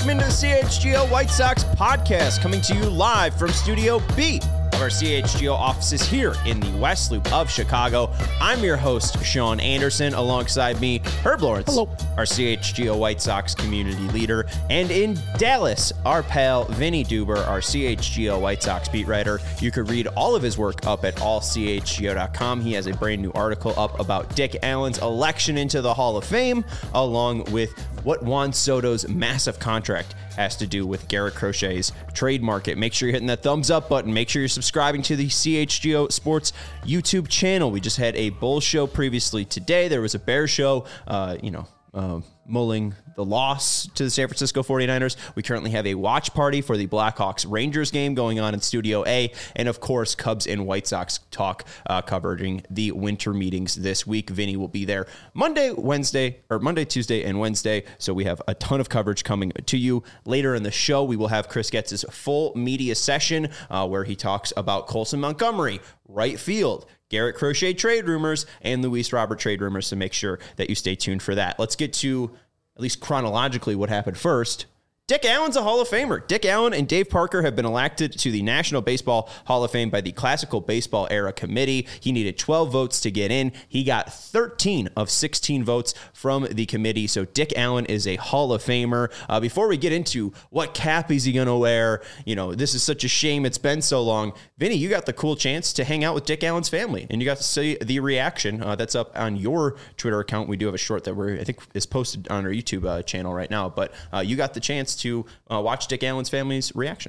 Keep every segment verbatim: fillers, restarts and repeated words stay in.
Welcome into the C H G O White Sox podcast, coming to you live from Studio B of our C H G O offices here in the West Loop of Chicago. I'm your host, Sean Anderson. Alongside me, Herb Lawrence, Hello. Our C H G O White Sox community leader. And in Dallas, our pal, Vinny Duber, our C H G O White Sox beat writer. You could read all of his work up at all c h g o dot com. He has a brand new article up about Dick Allen's election into the Hall of Fame, along with what Juan Soto's massive contract has to do with Garrett Crochet's trade market. Make sure you're hitting that thumbs up button. Make sure you're subscribing to the C H G O Sports YouTube channel. We just had a Bulls show previously today. There was a Bears show, uh, you know, uh, mulling the loss to the San Francisco forty-niners. We currently have a watch party for the Blackhawks Rangers game going on in Studio A. And of course, Cubs and White Sox talk uh, covering the winter meetings this week. Vinny will be there Monday, Wednesday, or Monday, Tuesday, and Wednesday. So we have a ton of coverage coming to you. Later in the show, we will have Chris Getz's full media session uh, where he talks about Colson Montgomery, right field, Garrett Crochet trade rumors, and Luis Robert trade rumors, so make sure that you stay tuned for that. Let's get to, at least chronologically, what happened first. Dick Allen's a Hall of Famer. Dick Allen and Dave Parker have been elected to the National Baseball Hall of Fame by the Classical Baseball Era Committee. He needed twelve votes to get in. He got thirteen of sixteen votes from the committee, so Dick Allen is a Hall of Famer. Uh, before we get into what cap is he going to wear, you know, this is such a shame it's been so long. Vinny, you got the cool chance to hang out with Dick Allen's family, and you got to see the reaction. Uh, that's up on your Twitter account. We do have a short that we're, I think is posted on our YouTube uh, channel right now, but uh, you got the chance to uh, watch Dick Allen's family's reaction.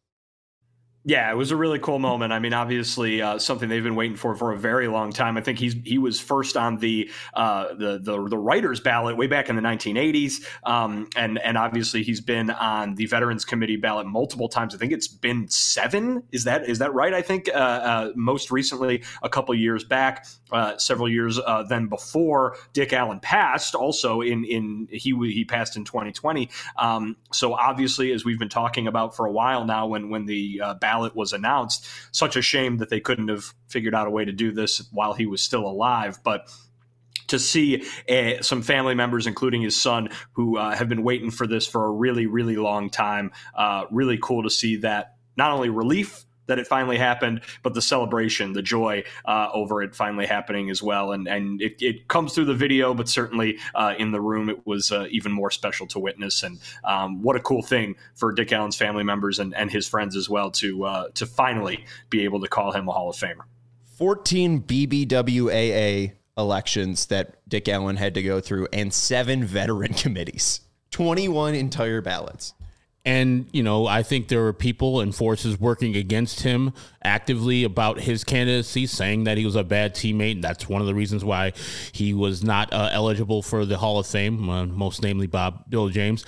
Yeah, it was a really cool moment. I mean, obviously, uh, something they've been waiting for for a very long time. I think he's he was first on the uh, the the the writers' ballot way back in the nineteen eighties, um, and and obviously he's been on the Veterans Committee ballot multiple times. I think it's been seven. Is that is that right? I think uh, uh, most recently a couple years back, uh, several years uh, then before Dick Allen passed. Also in in he he passed in twenty twenty. Um, so obviously, as we've been talking about for a while now, when when the uh, ballot was announced, such a shame that they couldn't have figured out a way to do this while he was still alive. But to see uh, some family members, including his son, who uh, have been waiting for this for a really, really long time, uh, really cool to see that not only relief that it finally happened, but the celebration, the joy uh, over it finally happening as well. And and it, it comes through the video, but certainly uh, in the room, it was uh, even more special to witness. And um, what a cool thing for Dick Allen's family members and, and his friends as well to uh, to finally be able to call him a Hall of Famer. fourteen B B W A A elections that Dick Allen had to go through, and seven veteran committees, twenty-one entire ballots. And, you know, I think there were people and forces working against him actively about his candidacy, saying that he was a bad teammate. That's one of the reasons why he was not uh, eligible for the Hall of Fame, uh, most namely Bob Bill James.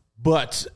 But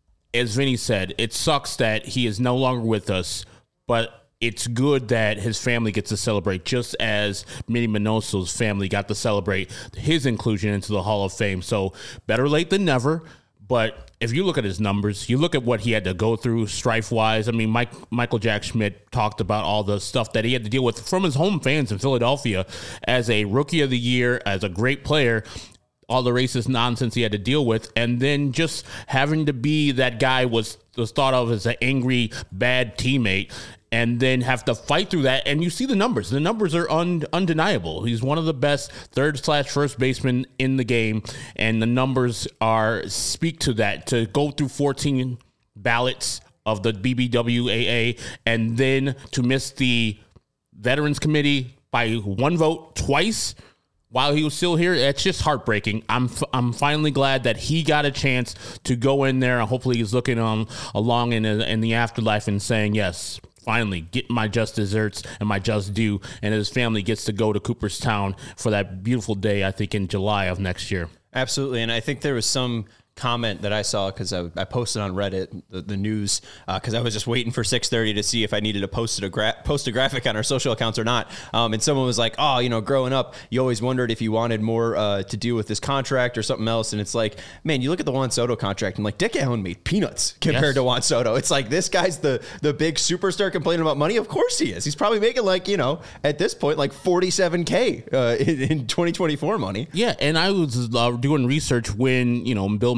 as Vinny said, it sucks that he is no longer with us, but it's good that his family gets to celebrate, just as Minnie Minoso's family got to celebrate his inclusion into the Hall of Fame. So better late than never. But if you look at his numbers, you look at what he had to go through strife-wise. I mean, Mike, Michael Jack Schmidt talked about all the stuff that he had to deal with from his home fans in Philadelphia as a Rookie of the Year, as a great player, all the racist nonsense he had to deal with, and then just having to be that guy was, was thought of as an angry, bad teammate, and then have to fight through that. And you see the numbers. The numbers are un- undeniable. He's one of the best third slash first basemen in the game, and the numbers are speak to that. To go through fourteen ballots of the B B W A A and then to miss the Veterans Committee by one vote twice while he was still here, it's just heartbreaking. I'm f- I'm finally glad that he got a chance to go in there, and hopefully he's looking um, along in, in the afterlife and saying, yes, finally get my just desserts and my just due, and his family gets to go to Cooperstown for that beautiful day, I think in July of next year. Absolutely, and I think there was some comment that I saw because I, I posted on Reddit the, the news because uh, I was just waiting for six thirty to see if I needed to post a, gra- post a graphic on our social accounts or not. Um, and someone was like, oh, you know, growing up, you always wondered if you wanted more uh, to do with this contract or something else. And it's like, man, you look at the Juan Soto contract and like Dick Allen made peanuts compared yes. to Juan Soto. It's like, this guy's the, the big superstar complaining about money. Of course he is. He's probably making like, you know, at this point, like forty-seven K uh, in, in twenty twenty-four money. Yeah. And I was uh, doing research when, you know, Bill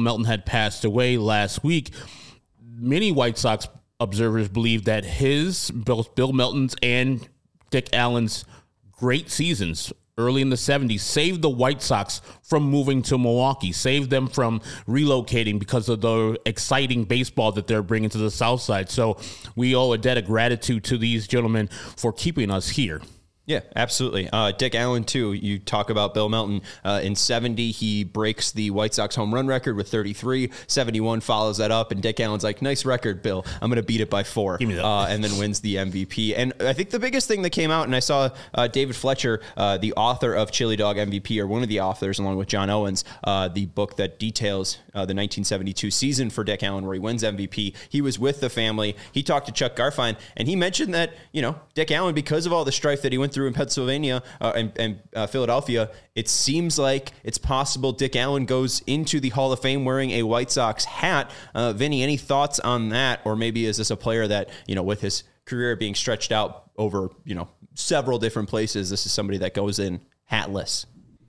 Melton had passed away last week, many White Sox observers believe that his, both Bill Melton's and Dick Allen's great seasons early in the seventies saved the White Sox from moving to Milwaukee, saved them from relocating because of the exciting baseball that they're bringing to the South Side. So we owe a debt of gratitude to these gentlemen for keeping us here. Yeah, absolutely. Uh, Dick Allen, too. You talk about Bill Melton. Uh, in seventy, he breaks the White Sox home run record with thirty-three. seventy-one follows that up, and Dick Allen's like, nice record, Bill. I'm going to beat it by four. Give me that. Uh, and then wins the M V P. And I think the biggest thing that came out, and I saw uh, David Fletcher, uh, the author of Chili Dog M V P, or one of the authors, along with John Owens, uh, the book that details uh, the nineteen seventy-two season for Dick Allen, where he wins M V P. He was with the family. He talked to Chuck Garfien, and he mentioned that, you know, Dick Allen, because of all the strife that he went through in Pennsylvania, Uh, and, and uh, Philadelphia, it seems like it's possible Dick Allen goes into the Hall of Fame wearing a White Sox hat. Uh, Vinny, any thoughts on that? Or maybe is this a player that, you know, with his career being stretched out over, you know, several different places, this is somebody that goes in hatless?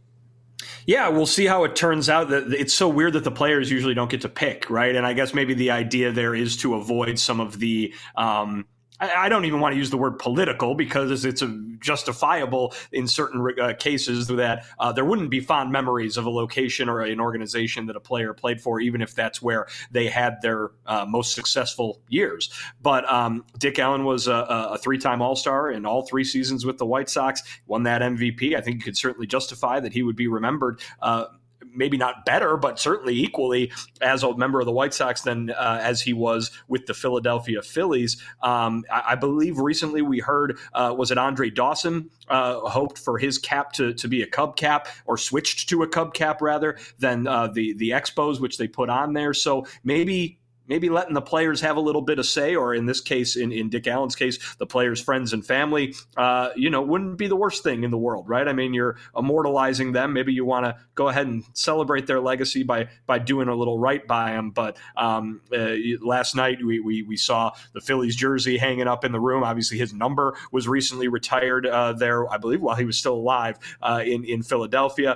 Yeah, we'll see how it turns out. That it's so weird that the players usually don't get to pick, right? And I guess maybe the idea there is to avoid some of the um, I don't even want to use the word political, because it's a justifiable in certain uh, cases that uh, there wouldn't be fond memories of a location or an organization that a player played for, even if that's where they had their uh, most successful years. But um, Dick Allen was a, a three-time All-Star in all three seasons with the White Sox, won that M V P. I think you could certainly justify that he would be remembered uh, maybe not better, but certainly equally as a member of the White Sox than uh, as he was with the Philadelphia Phillies. Um, I, I believe recently we heard, uh, was it Andre Dawson uh, hoped for his cap to, to be a Cub cap, or switched to a Cub cap rather than uh, the, the Expos, which they put on there. So maybe Maybe letting the players have a little bit of say, or in this case, in, in Dick Allen's case, the players' friends and family, uh, you know, wouldn't be the worst thing in the world, right? I mean, you're immortalizing them. Maybe you want to go ahead and celebrate their legacy by by doing a little right by them. But um, uh, last night we, we we saw the Phillies jersey hanging up in the room. Obviously, his number was recently retired uh, there, I believe, while he was still alive uh, in in Philadelphia.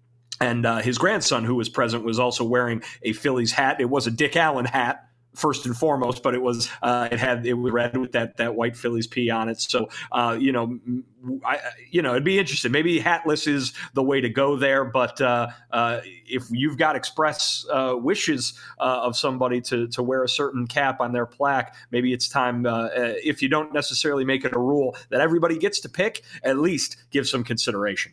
And uh, his grandson, who was present, was also wearing a Phillies hat. It was a Dick Allen hat, first and foremost, but it was uh, it had it was red with that that white Phillies P on it. So uh, you know, I you know it'd be interesting. Maybe hatless is the way to go there. But uh, uh, if you've got express uh, wishes uh, of somebody to to wear a certain cap on their plaque, maybe it's time. Uh, if you don't necessarily make it a rule that everybody gets to pick, at least give some consideration.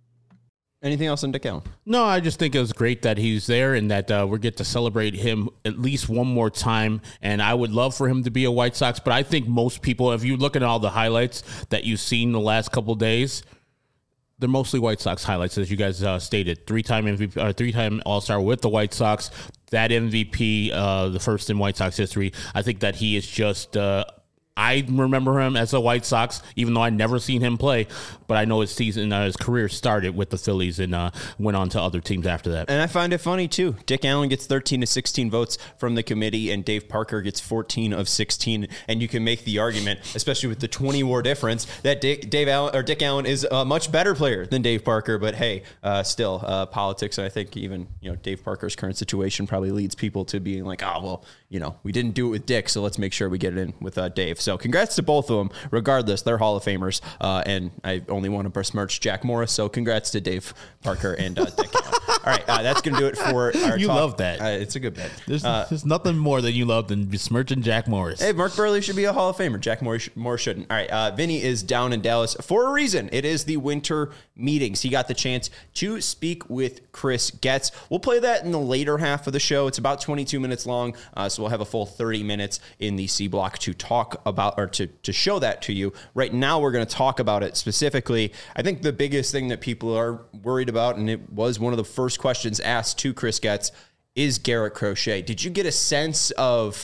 Anything else on Dick Allen? No, I just think it was great that he's there, and that uh, we get to celebrate him at least one more time. And I would love for him to be a White Sox, but I think most people, if you look at all the highlights that you've seen the last couple of days, they're mostly White Sox highlights, as you guys uh, stated. Three-time M V P, uh, three-time All-Star with the White Sox. That M V P, uh, the first in White Sox history. I think that he is just. Uh, I remember him as a White Sox, even though I never seen him play. But I know his season, uh, his career started with the Phillies and uh, went on to other teams after that. And I find it funny too. Dick Allen gets thirteen to sixteen votes from the committee, and Dave Parker gets fourteen of sixteen. And you can make the argument, especially with the twenty war difference, that Dick, Dave Allen or Dick Allen is a much better player than Dave Parker. But hey, uh, still uh, politics. And I think even you know Dave Parker's current situation probably leads people to being like, oh well, you know, we didn't do it with Dick, so let's make sure we get it in with uh, Dave. So congrats to both of them. Regardless, they're Hall of Famers. Uh, and I only want to besmirch Jack Morris. So congrats to Dave Parker and uh, Dick Allen. All right, uh, that's going to do it for our You talk. love that. Uh, it's a good bet. There's, uh, there's nothing more that you love than besmirching Jack Morris. Hey, Mark Burley should be a Hall of Famer. Jack Morris, Morris shouldn't. All right, uh, Vinny is down in Dallas for a reason. It is the winter meetings. He got the chance to speak with Chris Getz. We'll play that in the later half of the show. It's about twenty-two minutes long, uh, so we'll have a full thirty minutes in the C block to talk about or to, to show that to you. Right now, we're going to talk about it specifically. I think the biggest thing that people are worried about, and it was one of the first questions asked to Chris Getz, is Garrett Crochet. Did you get a sense of,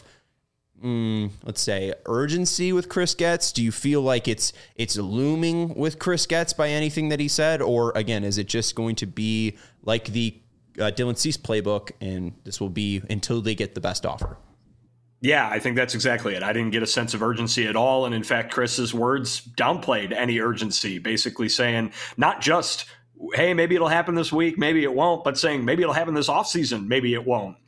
mm, let's say, urgency with Chris Getz? Do you feel like it's it's looming with Chris Getz by anything that he said? Or, again, is it just going to be like the uh, Dylan Cease playbook, and this will be until they get the best offer? Yeah, I think that's exactly it. I didn't get a sense of urgency at all. And in fact, Chris's words downplayed any urgency, basically saying not just, hey, maybe it'll happen this week, maybe it won't, but saying maybe it'll happen this offseason, maybe it won't.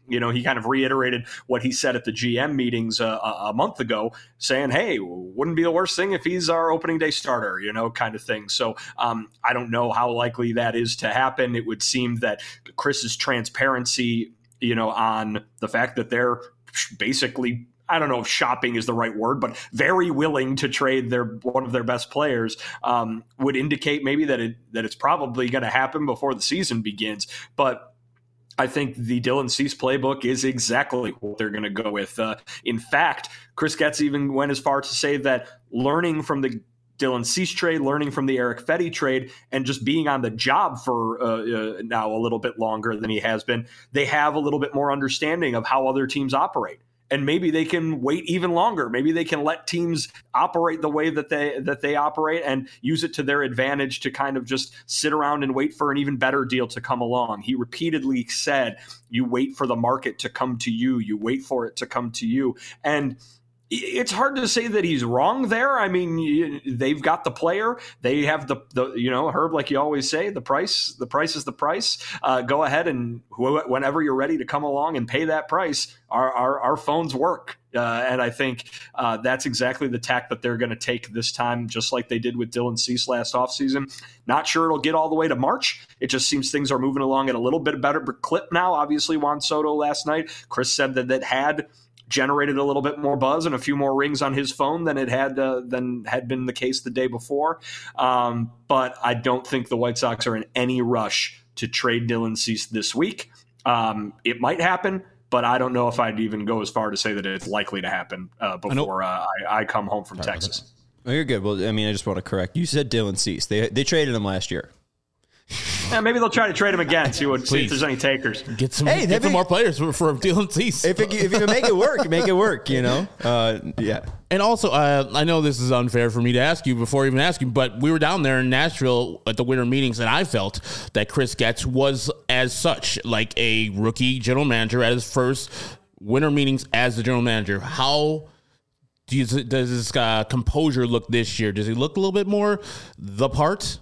you know, he kind of reiterated what he said at the G M meetings uh, a, a month ago, saying, hey, wouldn't be the worst thing if he's our opening day starter, you know, kind of thing. So um, I don't know how likely that is to happen. It would seem that Chris's transparency, you know, on the fact that they're basically, I don't know if shopping is the right word, but very willing to trade their one of their best players um, would indicate maybe that it that it's probably going to happen before the season begins. But I think the Dylan Cease playbook is exactly what they're going to go with. Uh, in fact, Chris Getz even went as far to say that learning from the Dylan Cease trade, learning from the Erick Fedde trade, and just being on the job for uh, uh, now a little bit longer than he has been, they have a little bit more understanding of how other teams operate. And maybe they can wait even longer. Maybe they can let teams operate the way that they that they operate and use it to their advantage to kind of just sit around and wait for an even better deal to come along. He repeatedly said, you wait for the market to come to you. You wait for it to come to you. And it's hard to say that he's wrong there. I mean, they've got the player. They have the, the you know, Herb, like you always say, the price, the price is the price. Uh, go ahead and wh- whenever you're ready to come along and pay that price, our our, our phones work. Uh, and I think uh, that's exactly the tack that they're going to take this time, just like they did with Dylan Cease last offseason. Not sure it'll get all the way to March. It just seems things are moving along at a little bit better clip now. Obviously, Juan Soto last night, Chris said that that had generated a little bit more buzz and a few more rings on his phone than it had uh, than had been the case the day before. Um, but I don't think the White Sox are in any rush to trade Dylan Cease this week. Um, it might happen, but I don't know if I'd even go as far to say that it's likely to happen uh, before I, uh, I, I come home from Texas. Oh, you're good. Well, I mean, I just want to correct. You said Dylan Cease. They they traded him last year. Yeah, maybe they'll try to trade him again. See what see if there's any takers. Get some, hey, get some more players for, for Dylan Cease. If it, if you can make it work, make it work. You know, uh, yeah. And also, uh, I know this is unfair for me to ask you before even ask you, but we were down there in Nashville at the winter meetings, and I felt that Chris Getz was as such, like a rookie general manager at his first winter meetings as the general manager. How does, does his uh, composure look this year? Does he look a little bit more the part?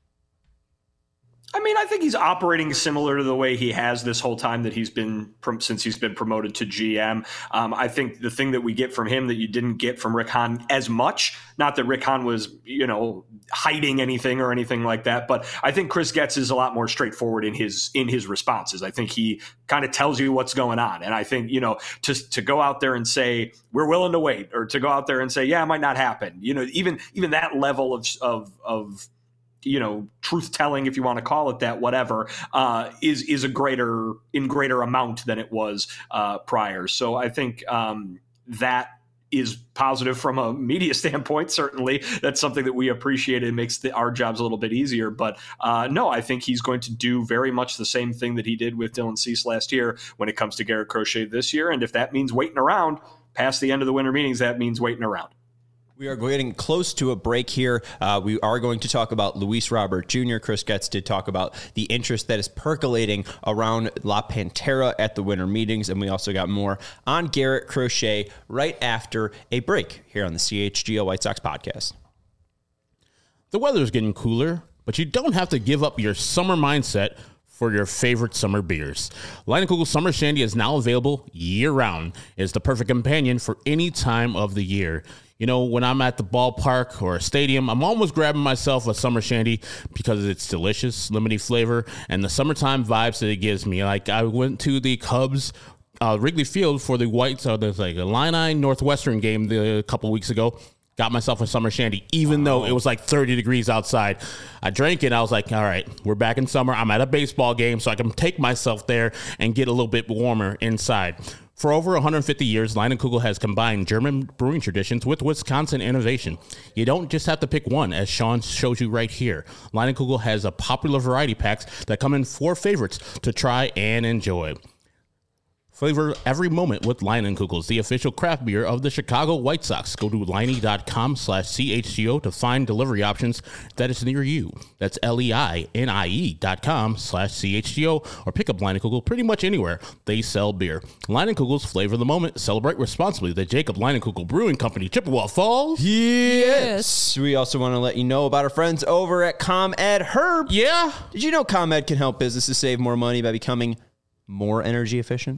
I mean, I think he's operating similar to the way he has this whole time that he's been since he's been promoted to G M. Um, I think the thing that we get from him that you didn't get from Rick Hahn as much, not that Rick Hahn was, you know, hiding anything or anything like that, but I think Chris Getz is a lot more straightforward in his in his responses. I think he kind of tells you what's going on. And I think, you know, to, to go out there and say, we're willing to wait, or to go out there and say, yeah, it might not happen. You know, even even that level of of of you know, truth telling, if you want to call it that, whatever, uh, is, is a greater, in greater amount than it was uh, prior. So I think um, that is positive from a media standpoint. Certainly that's something that we appreciate. It makes the, our jobs a little bit easier, but uh, no, I think he's going to do very much the same thing that he did with Dylan Cease last year when it comes to Garrett Crochet this year. And if that means waiting around past the end of the winter meetings, that means waiting around. We are getting close to a break here. Uh, we are going to talk about Luis Robert Junior Chris Getz did talk about the interest that is percolating around La Pantera at the winter meetings, and we also got more on Garrett Crochet right after a break here on the C H G O White Sox podcast. The weather is getting cooler, but you don't have to give up your summer mindset for your favorite summer beers. Leinenkugel Summer Shandy is now available year-round. It's the perfect companion for any time of the year. You know, when I'm at the ballpark or a stadium, I'm almost grabbing myself a summer shandy because it's delicious, lemony flavor, and the summertime vibes that it gives me. Like, I went to the Cubs uh, Wrigley Field for the Whites, uh, there's like a Illini Northwestern game the, a couple weeks ago. Got myself a summer shandy, even wow. though it was like thirty degrees outside. I drank it. I was like, all right, we're back in summer. I'm at a baseball game, so I can take myself there and get a little bit warmer inside. For over one hundred fifty years, Leinenkugel has combined German brewing traditions with Wisconsin innovation. You don't just have to pick one, as Sean shows you right here. Leinenkugel has a popular variety packs that come in four favorites to try and enjoy. Flavor every moment with Leinenkugels, the official craft beer of the Chicago White Sox. Go to Leine.com slash CHGO to find delivery options that is near you. That's L-E-I-N-I-E dot com slash C-H-G-O or pick up Leinenkugel pretty much anywhere they sell beer. Leinenkugel's flavor of the moment. Celebrate responsibly. The Jacob Leinenkugel Brewing Company, Chippewa Falls. Yes. We also want to let you know about our friends over at ComEd. Herb. Yeah? Did you know ComEd can help businesses save more money by becoming more energy efficient?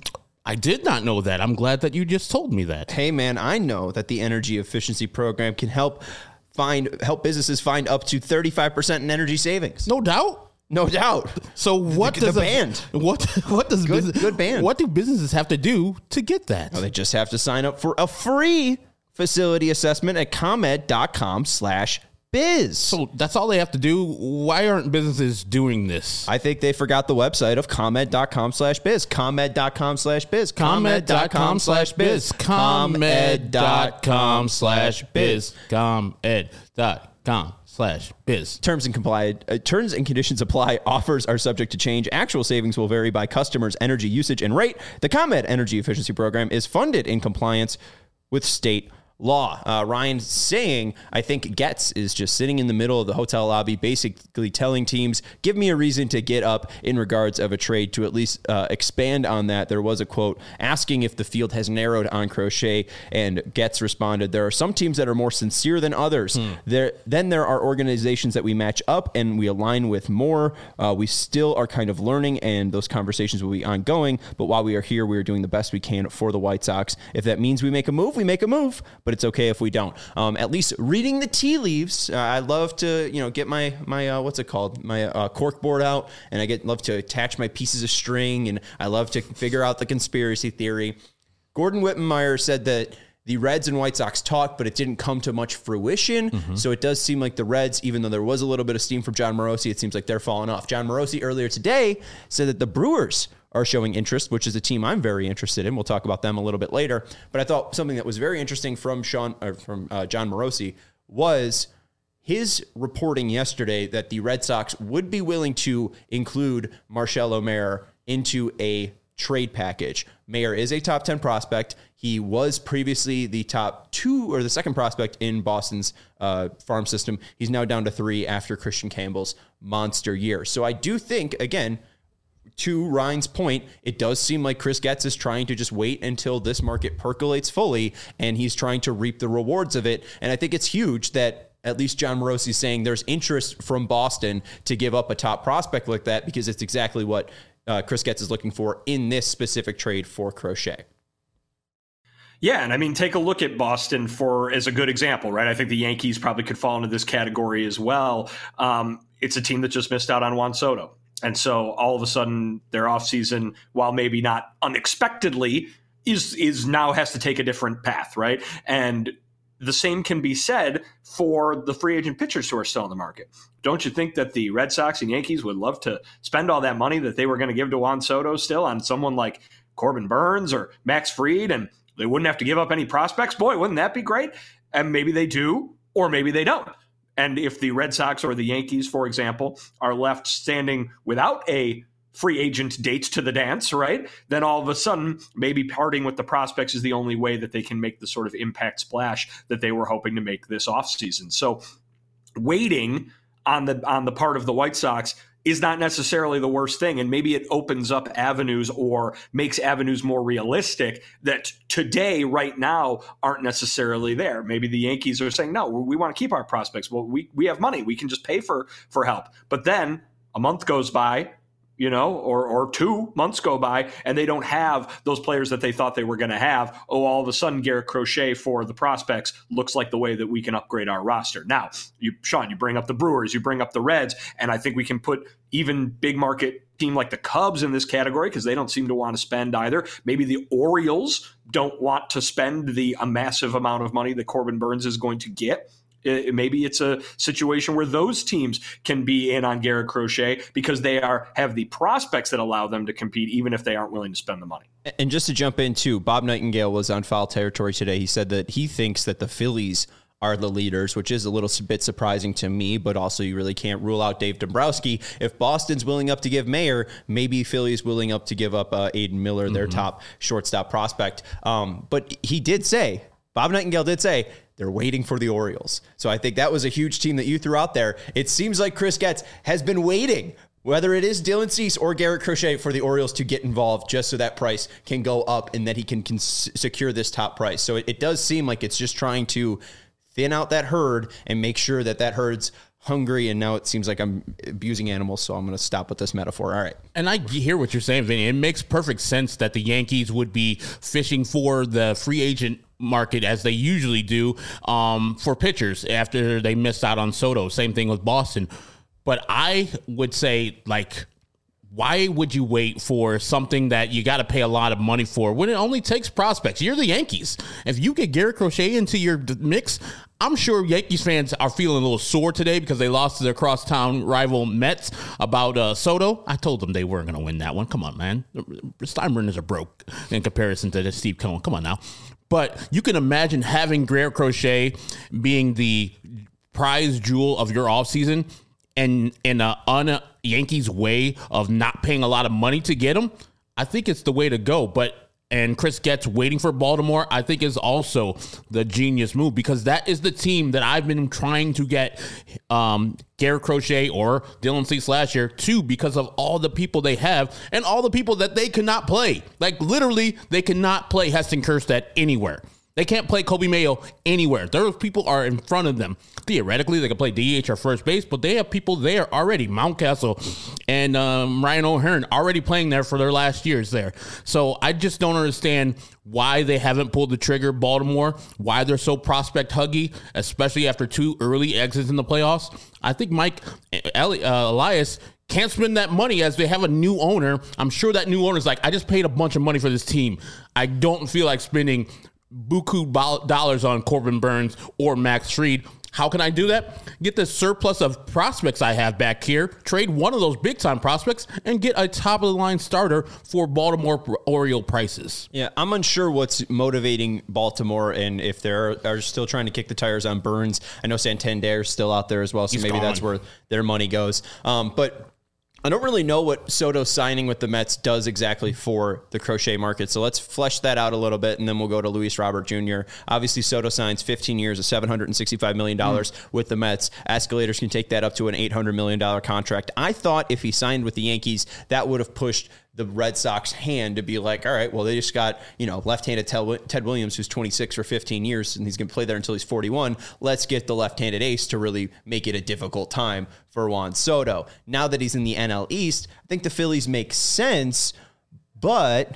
I did not know that. I'm glad that you just told me that. Hey, man, I know that the energy efficiency program can help find help businesses find up to thirty-five percent in energy savings. No doubt. No doubt. So what the, does the a, band? What what does good, business, good band? What do businesses have to do to get that? Well, they just have to sign up for a free facility assessment at ComEd dot com slash biz. So that's all they have to do. Why aren't businesses doing this? I think they forgot the website of ComEd dot com slash biz. ComEd dot com slash biz. ComEd dot com slash biz. ComEd dot com slash biz. ComEd dot com slash biz. Terms and complied uh, terms and conditions apply. Offers are subject to change. Actual savings will vary by customers' energy usage and rate. The ComEd Energy Efficiency Program is funded in compliance with state law. Uh, Ryan saying, I think Getz is just sitting in the middle of the hotel lobby, basically telling teams, give me a reason to get up in regards of a trade. To at least uh, expand on that, there was a quote asking if the field has narrowed on Crochet, and Getz responded, there are some teams that are more sincere than others. Hmm. There, Then there are organizations that we match up and we align with more. Uh, we still are kind of learning, and those conversations will be ongoing. But while we are here, we are doing the best we can for the White Sox. If that means we make a move, we make a move. But it's okay if we don't. Um, at least reading the tea leaves. Uh, I love to, you know, get my my uh, what's it called, my uh, cork board out, and I get love to attach my pieces of string, and I love to figure out the conspiracy theory. Gordon Wittenmeyer said that the Reds and White Sox talked, but it didn't come to much fruition. Mm-hmm. So it does seem like the Reds, even though there was a little bit of steam from John Morosi, it seems like they're falling off. John Morosi earlier today said that the Brewers are showing interest, which is a team I'm very interested in. We'll talk about them a little bit later. But I thought something that was very interesting from Sean, or from uh, John Morosi was his reporting yesterday that the Red Sox would be willing to include Marcelo Mayer into a trade package. Mayer is a top ten prospect. He was previously the top two or the second prospect in Boston's uh, farm system. He's now down to three after Christian Campbell's monster year. So I do think, again, to Ryan's point, it does seem like Chris Getz is trying to just wait until this market percolates fully, and he's trying to reap the rewards of it. And I think it's huge that at least John Morosi is saying there's interest from Boston to give up a top prospect like that, because it's exactly what uh, Chris Getz is looking for in this specific trade for Crochet. Yeah, and I mean, take a look at Boston for as a good example, right? I think the Yankees probably could fall into this category as well. Um, it's a team that just missed out on Juan Soto. And so all of a sudden their offseason, while maybe not unexpectedly, is is now has to take a different path, right? And the same can be said for the free agent pitchers who are still in the market. Don't you think that the Red Sox and Yankees would love to spend all that money that they were going to give to Juan Soto still on someone like Corbin Burns or Max Fried, and they wouldn't have to give up any prospects? Boy, wouldn't that be great? And maybe they do, or maybe they don't. And if the Red Sox or the Yankees, for example, are left standing without a free agent date to the dance, right, then all of a sudden maybe parting with the prospects is the only way that they can make the sort of impact splash that they were hoping to make this offseason. So waiting on the on the part of the White Sox is not necessarily the worst thing. And maybe it opens up avenues or makes avenues more realistic that today, right now, aren't necessarily there. Maybe the Yankees are saying, no, we want to keep our prospects. Well, we, we have money. We can just pay for, for help. But then a month goes by, you know, or or two months go by, and they don't have those players that they thought they were going to have. Oh, all of a sudden, Garrett Crochet for the prospects looks like the way that we can upgrade our roster. Now, you, Sean, you bring up the Brewers, you bring up the Reds, and I think we can put even big market team like the Cubs in this category because they don't seem to want to spend either. Maybe the Orioles don't want to spend the a massive amount of money that Corbin Burns is going to get. It, maybe it's a situation where those teams can be in on Garrett Crochet because they are have the prospects that allow them to compete, even if they aren't willing to spend the money. And just to jump in, too, Bob Nightingale was on Foul Territory today. He said that he thinks that the Phillies are the leaders, which is a little bit surprising to me, but also you really can't rule out Dave Dombrowski. If Boston's willing up to give Mayer, maybe Philly's willing up to give up uh, Aiden Miller, their mm-hmm. top shortstop prospect. Um, but he did say, Bob Nightingale did say, they're waiting for the Orioles. So I think that was a huge team that you threw out there. It seems like Chris Getz has been waiting, whether it is Dylan Cease or Garrett Crochet, for the Orioles to get involved just so that price can go up and that he can, can secure this top price. So it, it does seem like it's just trying to thin out that herd and make sure that that herd's hungry, and now it seems like I'm abusing animals, so I'm going to stop with this metaphor. All right. And I hear what you're saying, Vinny. It makes perfect sense that the Yankees would be fishing for the free agent market as they usually do um, for pitchers after they missed out on Soto. Same thing with Boston. But I would say, like, why would you wait for something that you got to pay a lot of money for when it only takes prospects? You're the Yankees. If you get Garrett Crochet into your mix, I'm sure Yankees fans are feeling a little sore today because they lost to their crosstown rival Mets about uh, Soto. I told them they weren't going to win that one. Come on, man. The Steinbrenners are broke in comparison to the Steve Cohen. Come on now. But you can imagine having Garrett Crochet being the prize jewel of your offseason and in a un-Yankees way of not paying a lot of money to get him. I think it's the way to go. But and Chris Getz waiting for Baltimore, I think is also the genius move because that is the team that I've been trying to get um, Garrett Crochet or Dylan Cease last year to because of all the people they have and all the people that they cannot play. Like literally, they cannot play Heston Kjerstad anywhere. They can't play Kobe Mayo anywhere. Those people are in front of them. Theoretically, they can play D H or first base, but they have people there already. Mountcastle and um, Ryan O'Hearn already playing there for their last years there. So I just don't understand why they haven't pulled the trigger, Baltimore, why they're so prospect huggy, especially after two early exits in the playoffs. I think Mike Eli- uh, Elias can't spend that money as they have a new owner. I'm sure that new owner's like, I just paid a bunch of money for this team. I don't feel like spending buku dollars on Corbin Burns or Max Fried. How can I do that? Get the surplus of prospects I have back here, trade one of those big-time prospects, and get a top-of-the-line starter for Baltimore Oriole prices. Yeah, I'm unsure what's motivating Baltimore and if they are still trying to kick the tires on Burns. I know Santander's still out there as well, so He's maybe gone. that's where their money goes. Um, but I don't really know what Soto signing with the Mets does exactly for the Crochet market. So let's flesh that out a little bit, and then we'll go to Luis Robert Junior Obviously, Soto signs fifteen years of seven hundred sixty-five million dollars mm. with the Mets. Escalators can take that up to an eight hundred million dollars contract. I thought if he signed with the Yankees, that would have pushed the Red Sox hand to be like, all right, well, they just got, you know, left-handed Ted Williams, who's twenty-six for fifteen years, and he's going to play there until he's forty-one. Let's get the left-handed ace to really make it a difficult time for Juan Soto. Now that he's in the N L East, I think the Phillies make sense, but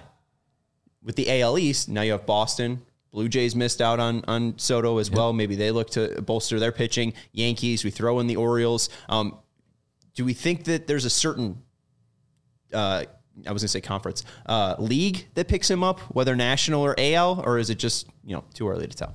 with the A L East, now you have Boston. Blue Jays missed out on, on Soto as yep. well. Maybe they look to bolster their pitching. Yankees, we throw in the Orioles. Um, do we think that there's a certain uh, I was going to say conference, uh, league that picks him up, whether national or A L, or is it just, you know, too early to tell?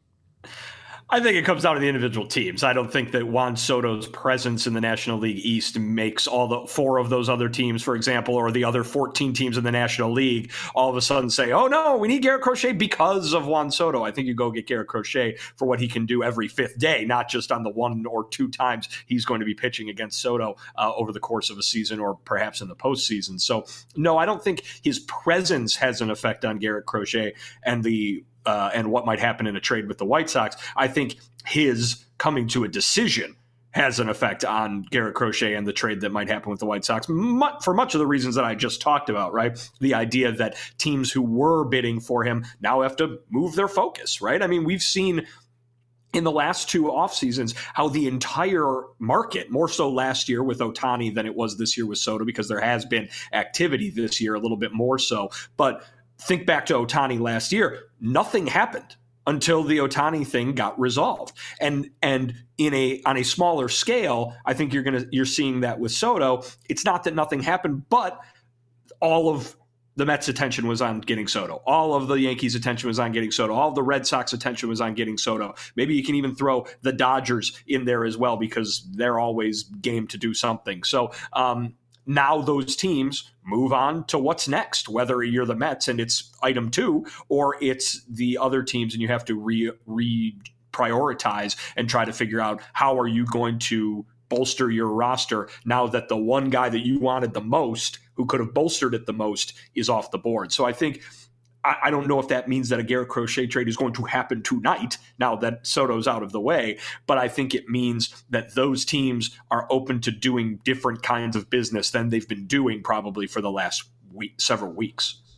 I think it comes down to the individual teams. I don't think that Juan Soto's presence in the National League East makes all the four of those other teams, for example, or the other fourteen teams in the National League all of a sudden say, oh, no, we need Garrett Crochet because of Juan Soto. I think you go get Garrett Crochet for what he can do every fifth day, not just on the one or two times he's going to be pitching against Soto uh, over the course of a season or perhaps in the postseason. So, no, I don't think his presence has an effect on Garrett Crochet and the Uh, and what might happen in a trade with the White Sox. I think his coming to a decision has an effect on Garrett Crochet and the trade that might happen with the White Sox for much of the reasons that I just talked about, right? The idea that teams who were bidding for him now have to move their focus, right? I mean, we've seen in the last two off seasons how the entire market, more so last year with Ohtani than it was this year with Soto, because there has been activity this year a little bit more so. But think back to Ohtani last year. Nothing happened until the Ohtani thing got resolved. And and in a on a smaller scale, I think you're gonna you're seeing that with Soto. It's not that nothing happened, but all of the Mets' attention was on getting Soto. All of the Yankees' attention was on getting Soto. All of the Red Sox' attention was on getting Soto. Maybe you can even throw the Dodgers in there as well because they're always game to do something. So um, now those teams move on to what's next, whether you're the Mets and it's item two or it's the other teams and you have to re, re prioritize and try to figure out how are you going to bolster your roster now that the one guy that you wanted the most, who could have bolstered it the most, is off the board. So I think I don't know if that means that a Garrett Crochet trade is going to happen tonight now that Soto's out of the way, but I think it means that those teams are open to doing different kinds of business than they've been doing probably for the last week, several weeks.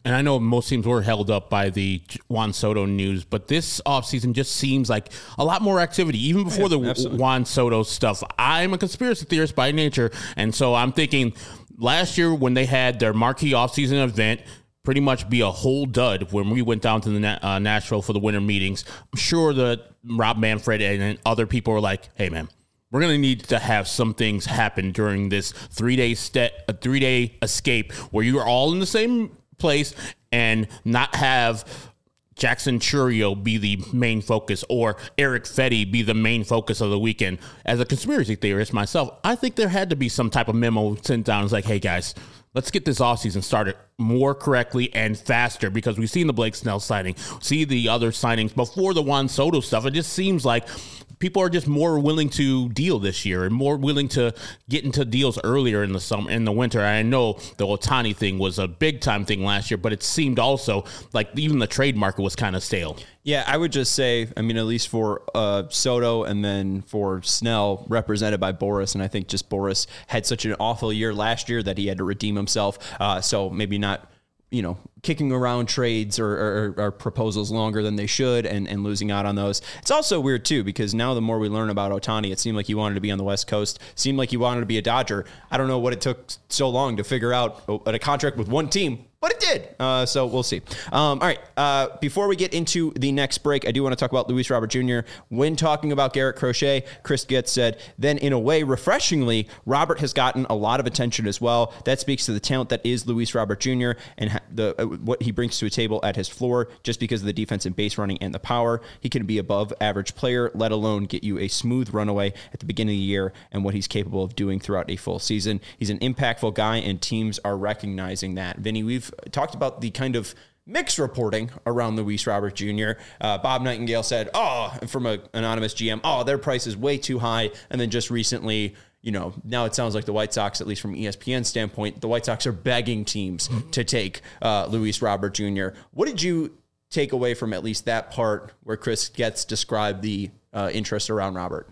And I know most teams were held up by the Juan Soto news, but this offseason just seems like a lot more activity, even before yeah, the absolutely. Juan Soto stuff. I'm a conspiracy theorist by nature, and so I'm thinking last year when they had their marquee offseason event pretty much be a whole dud when we went down to the uh, Nashville for the winter meetings, I'm sure that Rob Manfred and other people were like, hey, man, we're going to need to have some things happen during this three-day st- a three-day escape where you are all in the same place and not have Jackson Chourio be the main focus or Eric Fetty be the main focus of the weekend. As a conspiracy theorist myself, I think there had to be some type of memo sent down. It's like, hey, guys, let's get this offseason started more correctly and faster because we've seen the Blake Snell signing, see the other signings before the Juan Soto stuff. It just seems like people are just more willing to deal this year and more willing to get into deals earlier in the summer, in the winter. I know the Ohtani thing was a big time thing last year, but it seemed also like even the trade market was kind of stale. Yeah, I would just say, I mean, at least for uh, Soto and then for Snell, represented by Boris, and I think just Boris had such an awful year last year that he had to redeem himself. Uh, so maybe not, you know, kicking around trades or, or, or proposals longer than they should and, and losing out on those. It's also weird, too, because now the more we learn about Ohtani, it seemed like he wanted to be on the West Coast, seemed like he wanted to be a Dodger. I don't know what it took so long to figure out a contract with one team, but it did. Uh, so we'll see. Um, all right. Uh, before we get into the next break, I do want to talk about Luis Robert Junior When talking about Garrett Crochet, Chris Getz said, then in a way, refreshingly, Robert has gotten a lot of attention as well. That speaks to the talent that is Luis Robert Junior and the uh, what he brings to a table at his floor just because of the defense and base running and the power. He can be above average player, let alone get you a smooth runaway at the beginning of the year and what he's capable of doing throughout a full season. He's an impactful guy and teams are recognizing that. Vinny, we've talked about the kind of mixed reporting around Luis Robert Junior Uh, Bob Nightingale said, oh, from an anonymous G M, oh, their price is way too high. And then just recently, you know, now it sounds like the White Sox, at least from E S P N standpoint, the White Sox are begging teams to take uh, Luis Robert Junior What did you take away from at least that part where Chris Getz described the uh, interest around Robert?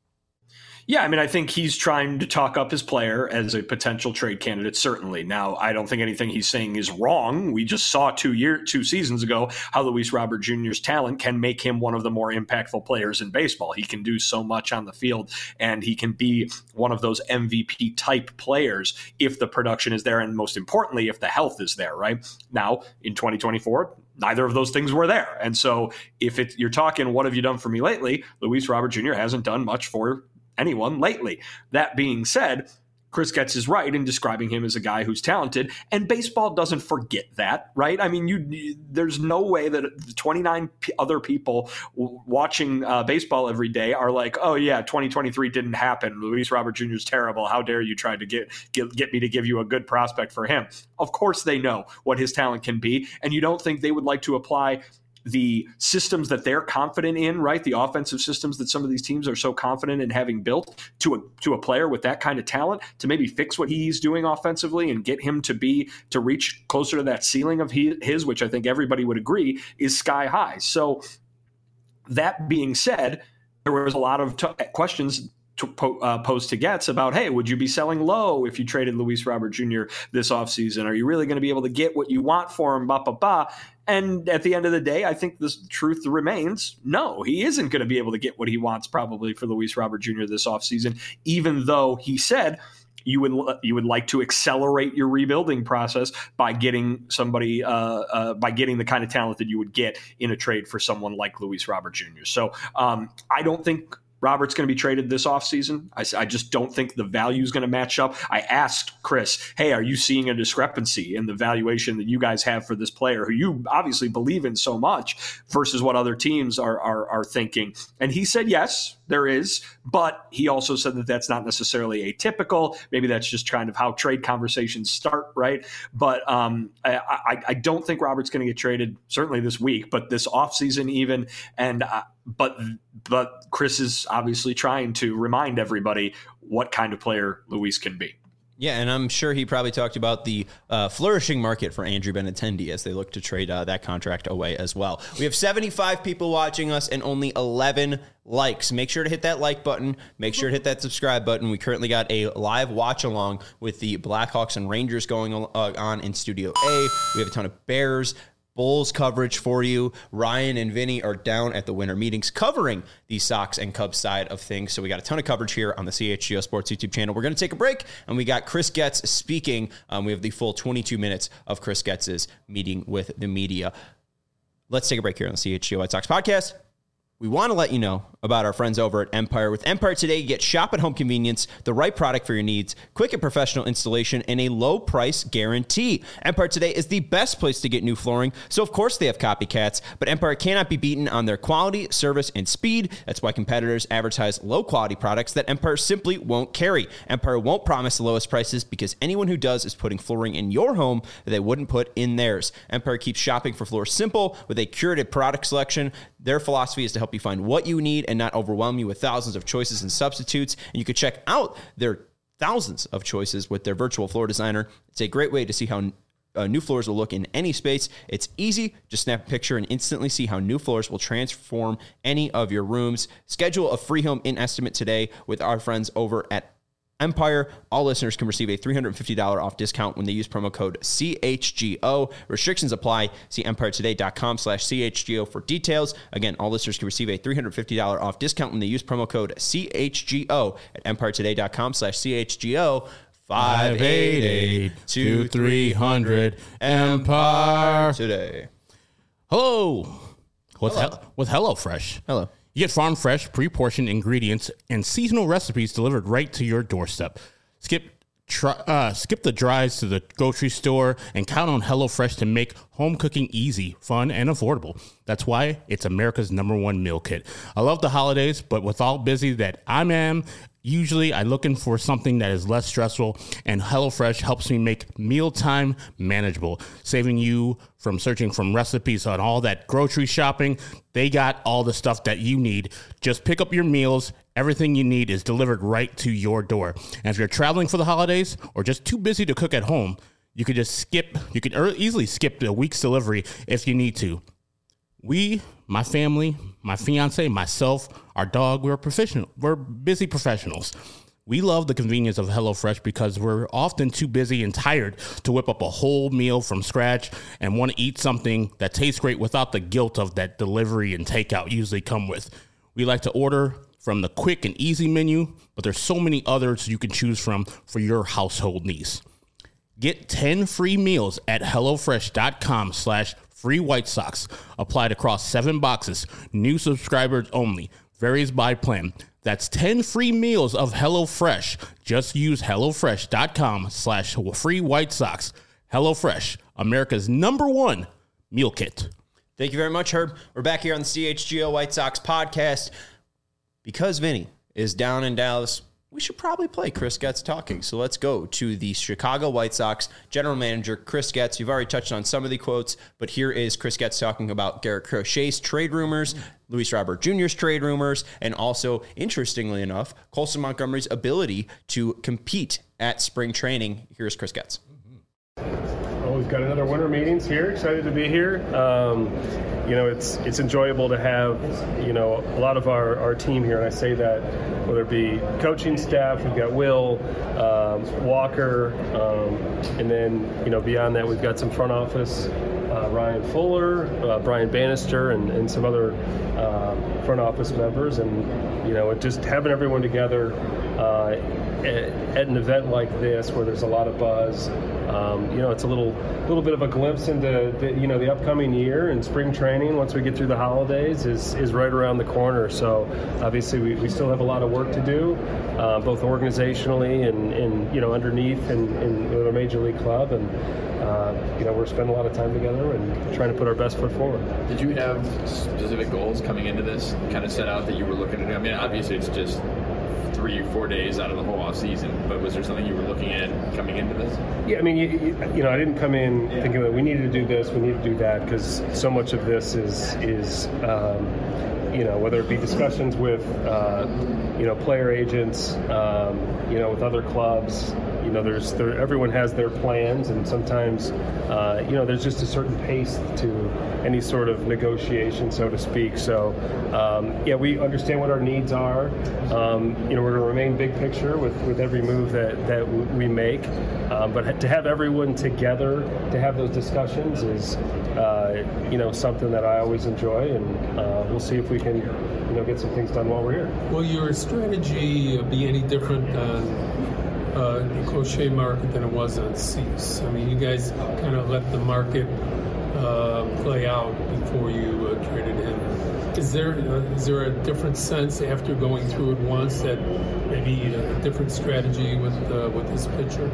Yeah, I mean, I think he's trying to talk up his player as a potential trade candidate, certainly. Now, I don't think anything he's saying is wrong. We just saw two year, two seasons ago how Luis Robert Junior's talent can make him one of the more impactful players in baseball. He can do so much on the field, and he can be one of those M V P-type players if the production is there, and most importantly, if the health is there, right? Now, in twenty twenty-four, neither of those things were there. And so if it, you're talking, what have you done for me lately? Luis Robert Junior hasn't done much for anyone lately. That being said, Chris Getz is right in describing him as a guy who's talented, and baseball doesn't forget that, right? I mean, you there's no way that twenty-nine p- other people w- watching uh, baseball every day are like, oh yeah, twenty twenty-three didn't happen. Luis Robert Junior is terrible. How dare you try to get, get get me to give you a good prospect for him? Of course they know what his talent can be, and you don't think they would like to apply the systems that they're confident in, right? The offensive systems that some of these teams are so confident in having built to a to a player with that kind of talent to maybe fix what he's doing offensively and get him to be to reach closer to that ceiling of his, which I think everybody would agree is sky high. So that being said, there was a lot of t- questions to po- uh, posed to Getz about, hey, would you be selling low if you traded Luis Robert Junior this offseason? Are you really going to be able to get what you want for him? Ba, ba, ba. And at the end of the day, I think the truth remains, no, he isn't going to be able to get what he wants probably for Luis Robert Junior this offseason, even though he said you would you would like to accelerate your rebuilding process by getting somebody uh, uh, by getting the kind of talent that you would get in a trade for someone like Luis Robert Junior So um, I don't think Robert's going to be traded this offseason. I, I just don't think the value is going to match up. I asked Chris, hey, are you seeing a discrepancy in the valuation that you guys have for this player who you obviously believe in so much versus what other teams are are, are thinking? And he said, yes, there is. But he also said that that's not necessarily atypical. Maybe that's just kind of how trade conversations start, right? But um, I, I, I don't think Robert's going to get traded, certainly this week, but this offseason even. And uh, but but Chris is obviously trying to remind everybody what kind of player Luis can be. Yeah, and I'm sure he probably talked about the uh, flourishing market for Andrew Benintendi as they look to trade uh, that contract away as well. We have seventy-five people watching us and only eleven likes. Make sure to hit that like button. Make sure to hit that subscribe button. We currently got a live watch along with the Blackhawks and Rangers going uh, on in Studio A. We have a ton of Bears, Bulls coverage for you. Ryan and Vinny are down at the winter meetings covering the Sox and Cubs side of things. So we got a ton of coverage here on the C H G O Sports YouTube channel. We're going to take a break, and we got Chris Getz speaking. Um, we have the full twenty-two minutes of Chris Getz's meeting with the media. Let's take a break here on the C H G O White Sox podcast. We want to let you know about our friends over at Empire. With Empire today, you get shop at home convenience, the right product for your needs, quick and professional installation, and a low price guarantee. Empire today is the best place to get new flooring, so of course they have copycats, but Empire cannot be beaten on their quality, service, and speed. That's why competitors advertise low quality products that Empire simply won't carry. Empire won't promise the lowest prices because anyone who does is putting flooring in your home that they wouldn't put in theirs. Empire keeps shopping for floors simple with a curated product selection. Their philosophy is to help you find what you need and not overwhelm you with thousands of choices and substitutes. And you can check out their thousands of choices with their virtual floor designer. It's a great way to see how uh, new floors will look in any space. It's easy. Just snap a picture and instantly see how new floors will transform any of your rooms. Schedule a free home in estimate today with our friends over at Empire. All listeners can receive a three hundred fifty dollars off discount when they use promo code C H G O. Restrictions apply. See empire today dot com slash C H G O for details. Again, all listeners can receive a three hundred fifty dollars off discount when they use promo code C H G O at empire today dot com slash C H G O. five eight eight, two three hundred Empire Today. Hello. With, Hello. He- with HelloFresh. Hello. You get farm fresh, pre-portioned ingredients and seasonal recipes delivered right to your doorstep. Skip try, uh, skip the drives to the grocery store and count on HelloFresh to make home cooking easy, fun, and affordable. That's why it's America's number one meal kit. I love the holidays, but with all busy that I am, usually I'm looking for something that is less stressful, and HelloFresh helps me make mealtime manageable, saving you from searching from recipes on all that grocery shopping. They got all the stuff that you need. Just pick up your meals. Everything you need is delivered right to your door. And if you're traveling for the holidays or just too busy to cook at home, you could just skip, you could easily skip a week's delivery if you need to. We, my family, my fiance, myself, our dog, we're professional. We're busy professionals. We love the convenience of HelloFresh because we're often too busy and tired to whip up a whole meal from scratch and want to eat something that tastes great without the guilt of that delivery and takeout usually come with. We like to order from the quick and easy menu, but there's so many others you can choose from for your household needs. Get ten free meals at HelloFresh.com slash free White Sox. Applied across seven boxes. New subscribers only. Varies by plan. That's ten free meals of HelloFresh. Just use HelloFresh.com slash free White Sox. HelloFresh, America's number one meal kit. Thank you very much, Herb. We're back here on the C H G O White Sox podcast. Because Vinny is down in Dallas, we should probably play Chris Getz talking. So let's go to the Chicago White Sox general manager, Chris Getz. You've already touched on some of the quotes, but here is Chris Getz talking about Garrett Crochet's trade rumors, Luis Robert Junior's trade rumors, and also, interestingly enough, Colson Montgomery's ability to compete at spring training. Here's Chris Getz. Well, we've got another winter meetings here. Excited to be here. Um, you know, it's it's enjoyable to have, you know, a lot of our, our team here, and I say that whether it be coaching staff, we've got Will, um, Walker, um, and then, you know, beyond that, we've got some front office, uh, Ryan Fuller, uh, Brian Bannister, and, and some other uh, front office members, and, you know, it just having everyone together uh, at, at an event like this where there's a lot of buzz. Um, you know, it's a little little bit of a glimpse into the, you know, the upcoming year, and spring training once we get through the holidays is, is right around the corner. So obviously we, we still have a lot of work to do, uh, both organizationally and, and you know, underneath in, in our major league club, and uh, you know, we're spending a lot of time together and trying to put our best foot forward. Did you have specific goals coming into this, kind of set out that you were looking to do? I mean, obviously it's just three, four days out of the whole off season, but was there something you were looking at coming into this? Yeah, I mean, you, you know, I didn't come in yeah. thinking that we needed to do this, we need to do that, because so much of this is, is um, you know, whether it be discussions with, uh, you know, player agents, um, you know, with other clubs, you know, there's there, everyone has their plans, and sometimes, uh, you know, there's just a certain pace to any sort of negotiation, so to speak. So, um, yeah, we understand what our needs are. Um, you know, we're going to remain big picture with, with every move that, that we make. Um, but to have everyone together to have those discussions is, uh, you know, something that I always enjoy, and uh, we'll see if we can, you know, get some things done while we're here. Will your strategy be any different on uh, the Crochet market than it was on Cease? I mean, you guys kind of let the market uh, play out before you uh, traded him. Is there uh, is there a different sense after going through it once that maybe a different strategy with uh, with this pitcher?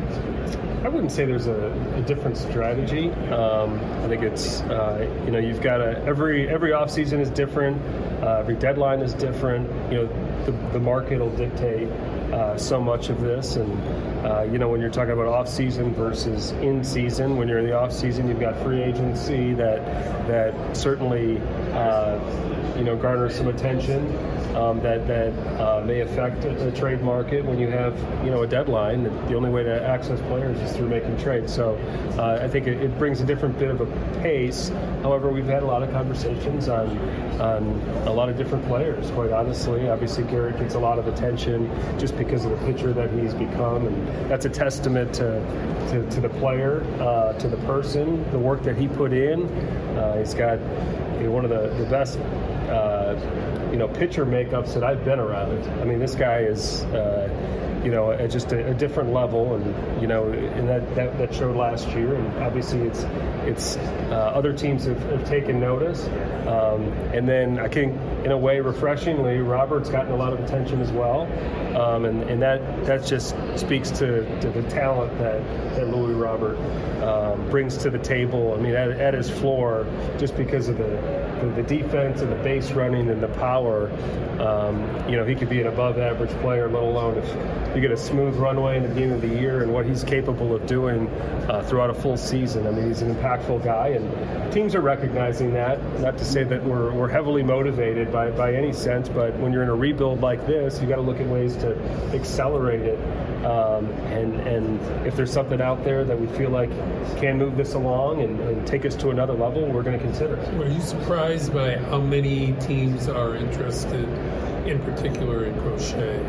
I wouldn't say there's a, a different strategy. Um, I think it's uh, you know you've got a every every offseason is different. Uh, every deadline is different. You know the the market will dictate uh, so much of this, and uh, you know when you're talking about off season versus in season. When you're in the off season, you've got free agency that that certainly uh, you know garners some attention. Um, that that uh, may affect the trade market when you have you know a deadline. The only way to access players is through making trades. So uh, I think it, it brings a different bit of a pace. However, we've had a lot of conversations on on a lot of different players. Quite honestly, obviously Garrett gets a lot of attention just because of the pitcher that he's become, and that's a testament to to, to the player, uh, to the person, the work that he put in. Uh, he's got you know, one of the the best. Uh, you know, pitcher makeups that I've been around. I mean, this guy is, uh, you know, at just a, a different level, and you know, and that, that, that showed last year. And obviously, it's it's uh, other teams have, have taken notice. Um, and then I think, in a way, refreshingly, Robert's gotten a lot of attention as well, um, and and that that just speaks to, to the talent that that Louis Robert um, brings to the table. I mean, at, at his floor, just because of the the defense and the base running and the power, um, you know, he could be an above-average player, let alone if you get a smooth runway in the beginning of the year and what he's capable of doing uh, throughout a full season. I mean, he's an impactful guy, and teams are recognizing that. Not to say that we're, we're heavily motivated by, by any sense, but when you're in a rebuild like this, you got to look at ways to accelerate it. Um, and, and if there's something out there that we feel like can move this along and, and take us to another level, we're going to consider it. Were you surprised by how many teams are interested, in particular in Crochet?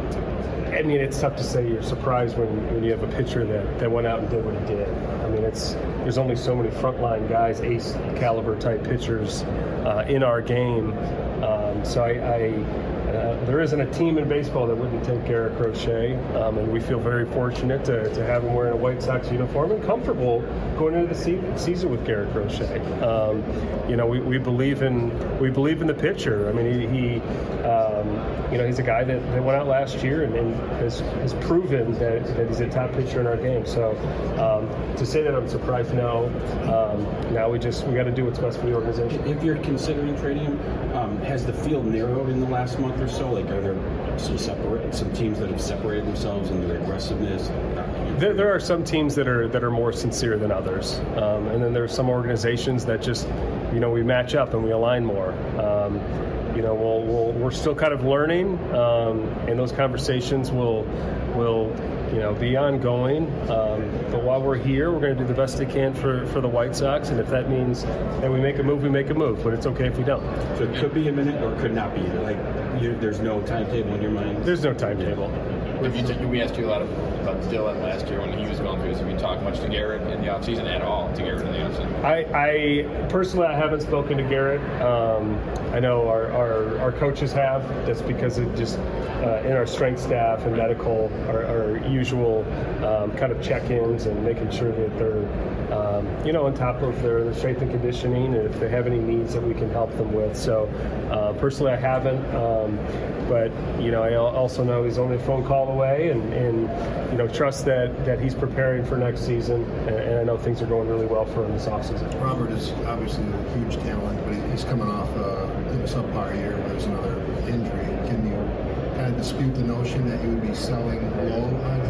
I mean, it's tough to say you're surprised when, when you have a pitcher that, that went out and did what he did. I mean, it's there's only so many frontline guys, ace caliber type pitchers uh, in our game. Um, so I, I Uh, there isn't a team in baseball that wouldn't take Garrett Crochet, um, and we feel very fortunate to, to have him wearing a White Sox uniform and comfortable going into the se- season with Garrett Crochet. Um, you know, we, we believe in we believe in the pitcher. I mean, he, he um, you know, he's a guy that, that went out last year and, and has, has proven that, that he's a top pitcher in our game. So um, to say that I'm surprised, no. Um, now we just we got to do what's best for the organization. If you're considering trading him, um, has the field narrowed in the last month or so? Like, are there some separate some teams that have separated themselves in their aggressiveness? There, there are some teams that are that are more sincere than others, um, and then there are some organizations that just, you know, we match up and we align more. Um, you know, we'll, we'll, we're still kind of learning, um, and those conversations will will. you know, be ongoing. Um, but while we're here, we're going to do the best we can for, for the White Sox. And if that means that we make a move, we make a move. But it's okay if we don't. So it could be a minute or it could not be. Like, you, there's no timetable in your mind? There's no timetable. Have you t- we asked you a lot of, about Dylan last year when he was going through this. Have you talked much to Garrett in the offseason at all, to Garrett in the offseason? I, I personally, I haven't spoken to Garrett. Um, I know our, our, our coaches have. That's because of just uh, in our strength staff and medical, our, our usual um, kind of check-ins and making sure that they're, um, you know, on top of their, their strength and conditioning, and if they have any needs that we can help them with. So uh, personally, I haven't. Um, but, you know, I also know he's only a phone call away, and, and you know, trust that, that he's preparing for next season, and, and I know things are going really well for him this offseason. Robert is obviously a huge talent, but he's coming off uh, a subpar year where there's another injury. Can you kind of dispute the notion that you would be selling low on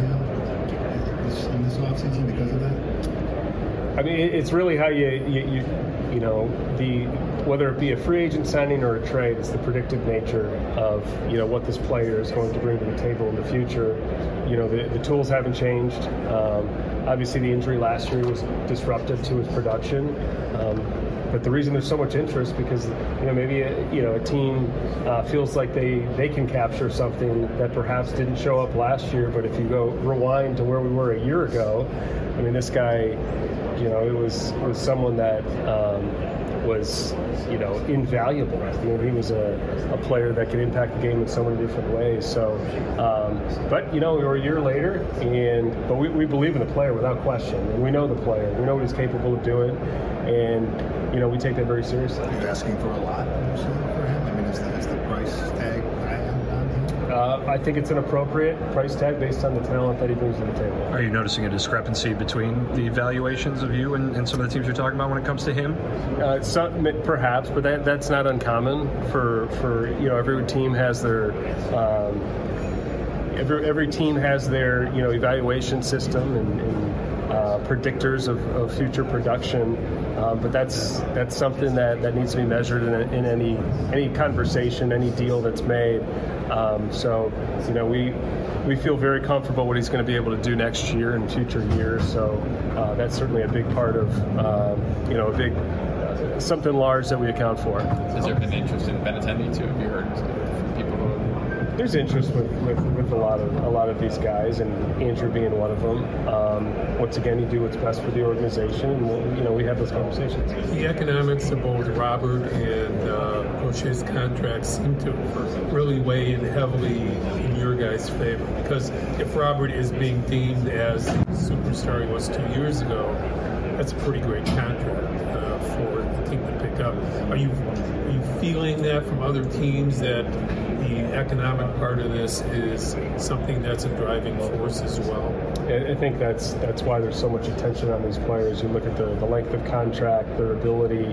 him this, in this offseason because of that? I mean, it's really how you, you, you, you know, the whether it be a free agent signing or a trade, it's the predictive nature of, you know, what this player is going to bring to the table in the future. you know, the, the tools haven't changed. Um, obviously, the injury last year was disruptive to his production. Um, But the reason there's so much interest because you know maybe a, you know a team uh, feels like they, they can capture something that perhaps didn't show up last year. But if you go rewind to where we were a year ago, I mean this guy, you know, it was it was someone that um, was you know invaluable. You know, he was a, a player that could impact the game in so many different ways. So, um, but you know we were a year later, and but we, we believe in the player without question, and we know the player. We know what he's capable of doing, and you know, we take that very seriously. Are you asking for a lot for him? I mean, is the, is the price tag high on him? Uh, I think it's an appropriate price tag based on the talent that he brings to the table. Are you noticing a discrepancy between the evaluations of you and, and some of the teams you're talking about when it comes to him? Uh, some, perhaps, but that, that's not uncommon. For, for you know, every team has their um, every every team has their you know evaluation system and. and Uh, predictors of, of future production, um, but that's that's something that, that needs to be measured in, a, in any any conversation, any deal that's made. Um, so, you know, we we feel very comfortable what he's going to be able to do next year and future years. So uh, that's certainly a big part of uh, you know a big uh, something large that we account for. Has there been interest in Benintendi too? Have you heard from people who? There's interest with, with, with a lot of a lot of these guys, and Andrew being one of them. Um, once again, you do what's best for the organization, and we'll, you know we have those conversations. The economics of both Robert and uh, Crochet's contracts seem to really weigh in heavily in your guys' favor, because if Robert is being deemed as the superstar he was two years ago, that's a pretty great contract uh, for the team to pick up. Are you are you feeling that from other teams that the economic part of this is something that's a driving force as well? I think that's that's why there's so much attention on these players. You look at the, the length of contract, their ability,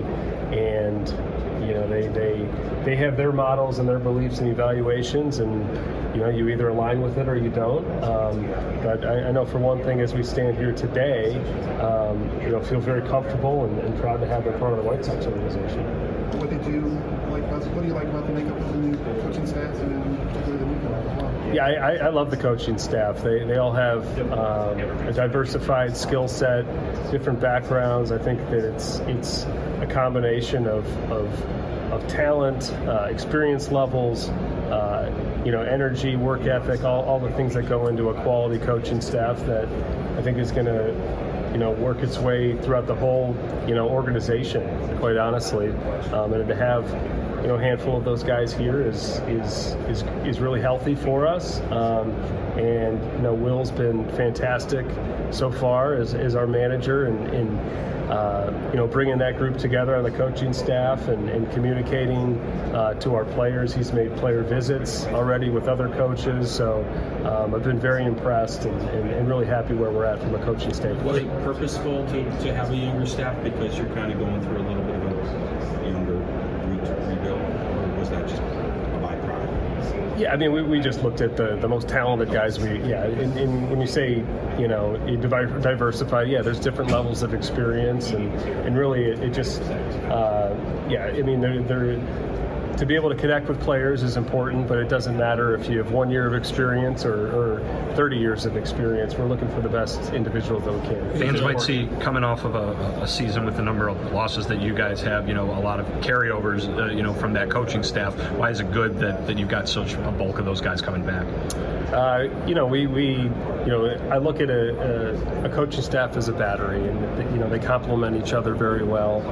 and you know they, they they have their models and their beliefs and evaluations, and you know you either align with it or you don't. Um, but I, I know for one thing, as we stand here today, um, you know feel very comfortable and, and proud to have them part of the White Sox organization. What did you like about what do you like about the makeup of the new coaching staff and particularly the new coach? Yeah, I, I love the coaching staff. They they all have um, a diversified skill set, different backgrounds. I think that it's it's a combination of of, of talent, uh, experience levels, uh, you know, energy, work ethic, all, all the things that go into a quality coaching staff that I think is going to you know, work its way throughout the whole, you know, organization, quite honestly. Um, and to have, you know, a handful of those guys here is is is, is really healthy for us. Um, and, you know, Will's been fantastic so far as, as our manager and, and uh, you know, bringing that group together on the coaching staff and, and communicating uh, to our players. He's made player visits already with other coaches. So um, I've been very impressed and, and, and really happy where we're at from a coaching standpoint. Was it purposeful to, to have a younger staff because you're kind of going through a little bit of a younger re- rebuild, or was that just a byproduct? Yeah, I mean, we, we just looked at the, the most talented guys. We yeah, and, and when you say you know you divi- diversify, yeah, there's different levels of experience, and, and really it, it just uh, yeah, I mean they're they're. To be able to connect with players is important, but it doesn't matter if you have one year of experience or, or thirty years of experience. We're looking for the best individuals that we can. Fans might see, coming off of a, a season with the number of losses that you guys have, you know, a lot of carryovers, uh, you know, from that coaching staff. Why is it good that, that you've got such a bulk of those guys coming back? Uh, you know, we, we, you know, I look at a, a, a coaching staff as a battery, and, you know, they complement each other very well.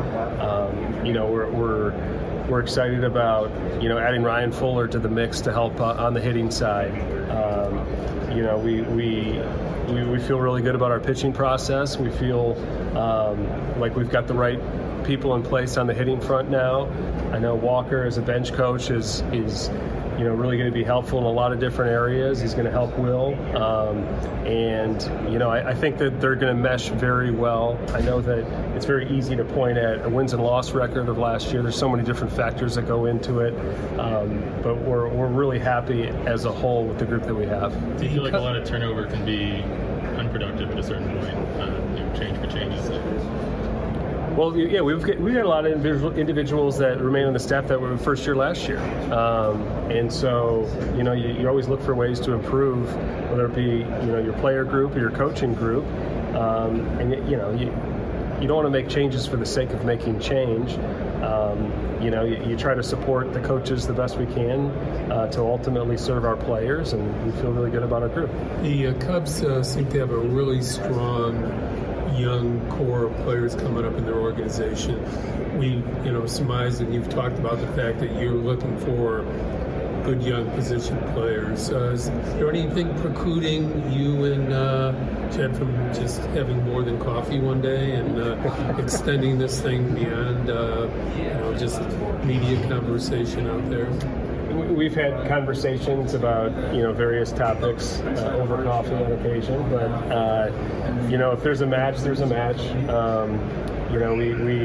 Um, you know, we're, we're We're excited about, you know, adding Ryan Fuller to the mix to help uh, on the hitting side. Um, you know, we, we we we feel really good about our pitching process. We feel um, like we've got the right people in place on the hitting front now. I know Walker as a bench coach is is you know really going to be helpful in a lot of different areas. He's going to help Will, um, and you know I, I think that they're going to mesh very well. I know that it's very easy to point at a wins and loss record of last year. There's so many different factors that go into it, um, but we're we're really happy as a whole with the group that we have. Do you feel like a lot of turnover can be unproductive at a certain point? Uh, you know, change for change's sake? Well, yeah, we've got, we've got a lot of individual, individuals that remain on the staff that were first year last year, um, and so you know you, you always look for ways to improve, whether it be you know your player group or your coaching group, um, and you know you you don't want to make changes for the sake of making change. Um, you know you, you try to support the coaches the best we can uh, to ultimately serve our players, and we feel really good about our group. The uh, Cubs uh, seem to have a really strong young core of players coming up in their organization. We, you know, surmised, and you've talked about the fact that you're looking for good young position players. Uh, is there anything precluding you and uh, Jed from just having more than coffee one day and uh, extending this thing beyond, uh, you know, just media conversation out there? We've had conversations about you know various topics uh, over coffee on occasion, but uh, you know if there's a match, there's a match. Um, you know we, we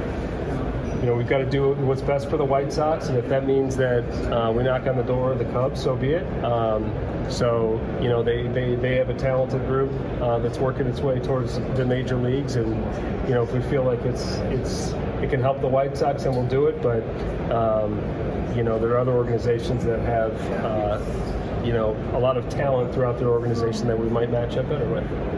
you know we've got to do what's best for the White Sox, and if that means that uh, we knock on the door of the Cubs, so be it. Um, so you know they, they, they have a talented group uh, that's working its way towards the major leagues, and you know if we feel like it's it's it can help the White Sox, then we'll do it. But um, You know, there are other organizations that have, uh, you know, a lot of talent throughout their organization that we might match up better with.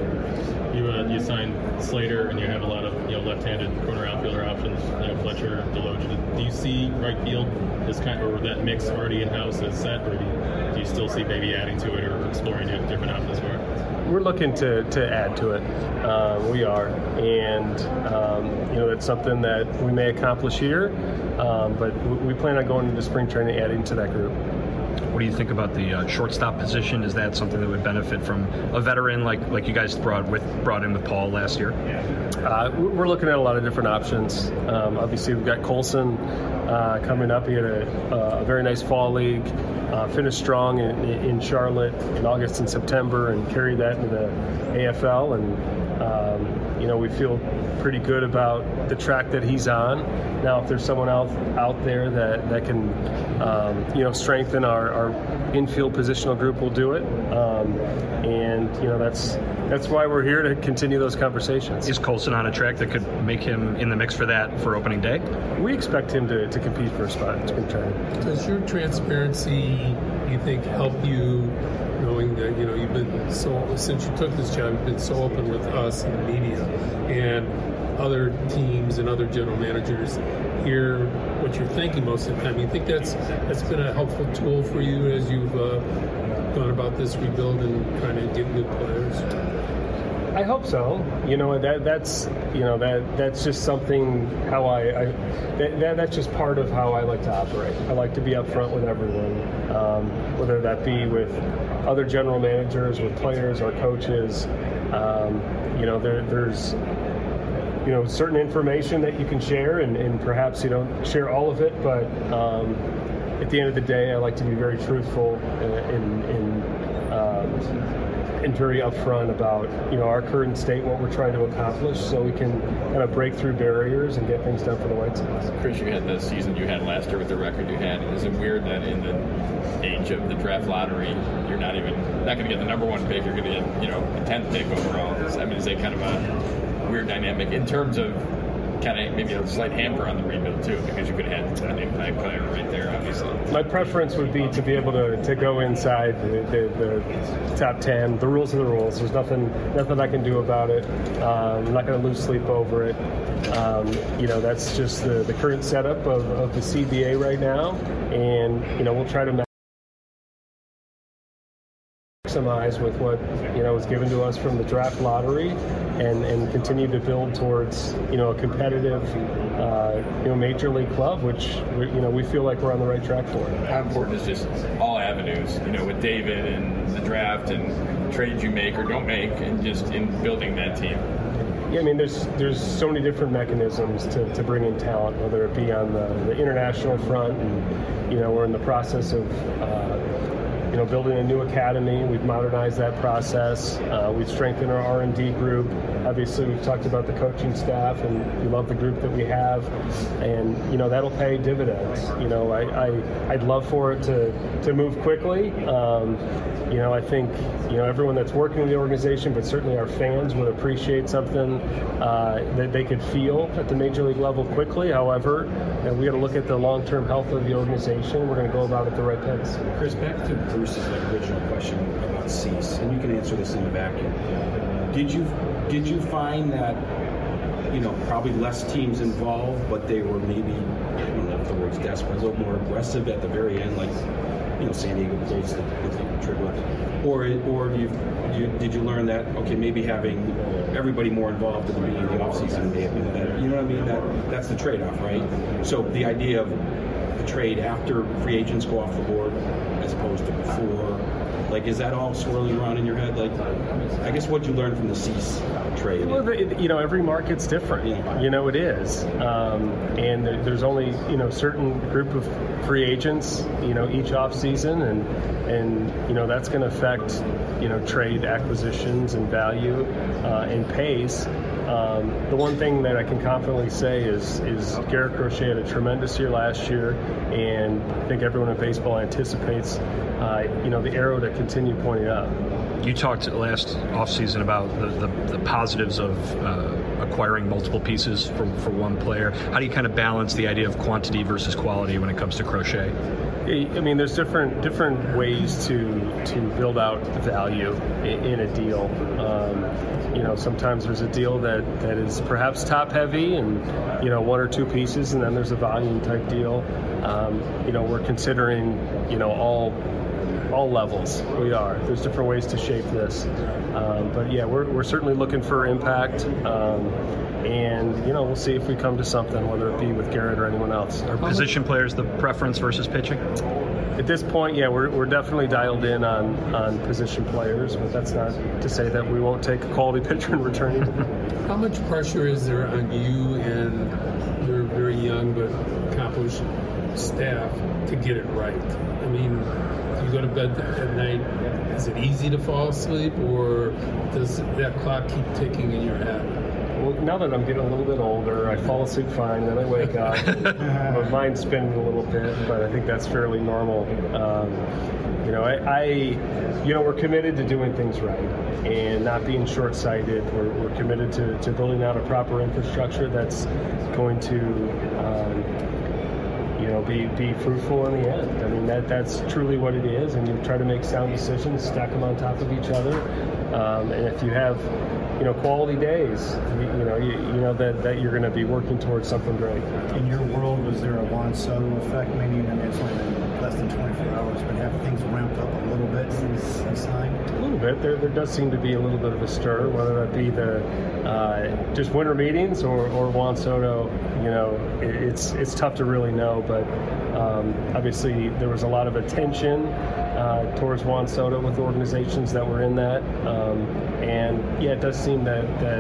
You uh, you signed Slater, and you have a lot of you know left-handed corner outfielder options. You know, Fletcher, Deloach. Do you see right field as kind of, or that mix already in house as set, or do you, do you still see maybe adding to it or exploring different options for it? We're looking to, to add to it. Uh, we are, and um, you know that's something that we may accomplish here, um, but we plan on going into spring training, adding to that group. What do you think about the uh, shortstop position? Is that something that would benefit from a veteran like like you guys brought with brought in with Paul last year? Uh, we're looking at a lot of different options. Um, obviously, we've got Colson uh, coming up. He had a, a very nice fall league, uh, finished strong in, in Charlotte in August and September, and carried that into the A F L. And um, you know, we feel pretty good about the track that he's on. Now, if there's someone else out there that that can, um, you know, strengthen our, our infield positional group, we'll do it. Um, and you know, that's that's why we're here, to continue those conversations. Is Colson on a track that could make him in the mix for that for opening day? We expect him to, to compete for a spot in spring training. Does your transparency, you think, help you, knowing that you know you've been so since you took this job, you've been so open with us and the media and other teams and other general managers hear what you're thinking most of the time? You think that's that's been a helpful tool for you as you've uh, gone about this rebuild and trying to get good players? I hope so. You know, that that's you know that that's just something how I, I that, that that's just part of how I like to operate. I like to be upfront with everyone, um, whether that be with other general managers, with players or coaches. Um, you know, there, there's you know certain information that you can share, and, and perhaps you don't share all of it, but um, at the end of the day, I like to be very truthful in. in um, and very upfront about you know our current state, what we're trying to accomplish, so we can kind of break through barriers and get things done for the White Sox. Chris, you had the season you had last year with the record you had. Is it weird that in the age of the draft lottery, you're not even not going to get the number one pick, you're going to get you know a tenth pick overall? I mean, is that kind of a weird dynamic in terms of kind of maybe a slight hamper on the rebuild too, because you could have an impact player right there, obviously? My preference would be to be able to, to go inside the, the, the top ten. The rules are the rules. There's nothing nothing I can do about it. Um, I'm not going to lose sleep over it. Um, you know, that's just the, the current setup of, of the C B A right now, and you know we'll try to maximize with what you know was given to us from the draft lottery, and, and continue to build towards you know a competitive uh, you know major league club, which we, you know we feel like we're on the right track for. How important is just all avenues, you know, with David and the draft and trades you make or don't make, and just in building that team? Yeah, I mean, there's there's so many different mechanisms to, to bring in talent, whether it be on the, the international front, and you know we're in the process of. Uh, you know, building a new academy. We've modernized that process. Uh, we've strengthened our R and D group. Obviously, we've talked about the coaching staff, and we love the group that we have. And, you know, that'll pay dividends. You know, I, I, I'd love for it to, to move quickly. Um, you know, I think, you know, everyone that's working in the organization, but certainly our fans would appreciate something uh, that they could feel at the major league level quickly. However, you know, we got to look at the long-term health of the organization. We're going to go about it the right pace. Chris, back to Bruce's like, original question about Cease, and you can answer this in a vacuum. Did you did you find that, you know, probably less teams involved, but they were maybe, I don't know if the word's desperate, a little more aggressive at the very end, like, you know, San Diego closed the, the trigger, or or do you, do you did you learn that, okay, maybe having everybody more involved at the beginning of the offseason may have been better? You know what I mean? That that's the trade-off, right? So the idea of the trade after free agents go off the board as opposed to before, like, is that all swirling around in your head? Like, I guess what'd you learn from the Cease trade? Well, the, you know, every market's different. Yeah. You know, it is. Um, and there's only, you know, certain group of free agents, you know, each off season, and, and you know, that's going to affect, you know, trade acquisitions and value uh, and pace. Um, the one thing that I can confidently say is is Garrett Crochet had a tremendous year last year, and I think everyone in baseball anticipates, uh, you know, the arrow to continue pointing up. You talked last offseason about the, the, the positives of uh, acquiring multiple pieces for, for one player. How do you kind of balance the idea of quantity versus quality when it comes to Crochet? I mean, there's different different ways to to build out value in, in a deal. Um, you know, sometimes there's a deal that, that is perhaps top heavy and, you know, one or two pieces, and then there's a volume type deal. Um, you know, we're considering, you know, all all levels. We are. There's different ways to shape this. Um, but yeah, we're, we're certainly looking for impact. Um, and, you know, we'll see if we come to something, whether it be with Garrett or anyone else. Are position players the preference versus pitching? At this point, yeah, we're, we're definitely dialed in on, on position players, but that's not to say that we won't take a quality pitcher in return either. How much pressure is there on you and your very young but accomplished staff to get it right? I mean, you go to bed at night, is it easy to fall asleep, or does that clock keep ticking in your head? Well, now that I'm getting a little bit older, I fall asleep fine, then I wake up. My mind's spinning a little bit, but I think that's fairly normal. Um, you know, I, I, you know, we're committed to doing things right and not being short-sighted. We're, we're committed to, to building out a proper infrastructure that's going to, um, you know, be, be fruitful in the end. I mean, that that's truly what it is, and you try to make sound decisions, stack them on top of each other. Um, and if you have, you know, quality days, you, you know, you, you know that, that you're going to be working towards something great. In your world, was there a Juan Soto effect? Meaning, I mean, it's only been less than twenty-four hours, but have things ramped up a little bit since he signed? A little bit. There, there does seem to be a little bit of a stir, whether that be the uh, just winter meetings or, or Juan Soto. You know, it, it's it's tough to really know, but um, obviously there was a lot of attention uh, towards Juan Soto with organizations that were in that, um, and yeah, it does seem that that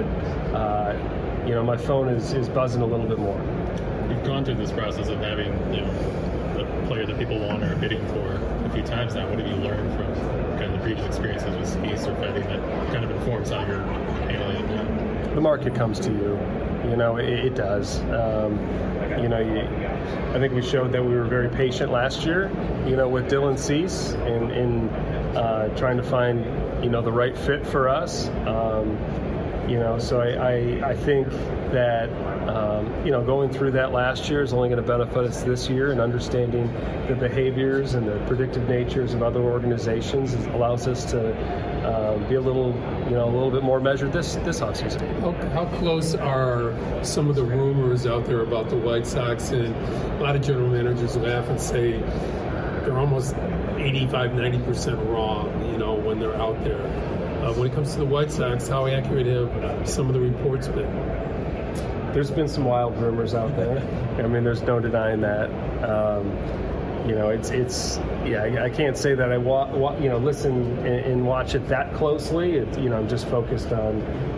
uh, you know, my phone is, is buzzing a little bit more. You've gone through this process of having, you know, the player that people want or are bidding for a few times now. What have you learned from kind of the previous experiences with Cease or Fetty that kind of informs how you're handling it now? The market comes to you. You know, it, it does. Um, you know, you, I think we showed that we were very patient last year, you know, with Dylan Cease in, in uh, trying to find, you know, the right fit for us. Um, you know, so I, I, I think that, um, you know, going through that last year is only going to benefit us this year, and understanding the behaviors and the predictive natures of other organizations allows us to uh, be a little, you know, a little bit more measured this this offseason. How, how close are some of the rumors out there about the White Sox? And a lot of general managers laugh and say they're almost eighty-five, ninety percent wrong, you know, when they're out there. Uh, when it comes to the White Sox, how accurate have some of the reports been? There's been some wild rumors out there. I mean, there's no denying that. Um, you know, it's it's yeah. I, I can't say that I wa-, wa- you know listen and, and watch it that closely. It, you know, I'm just focused on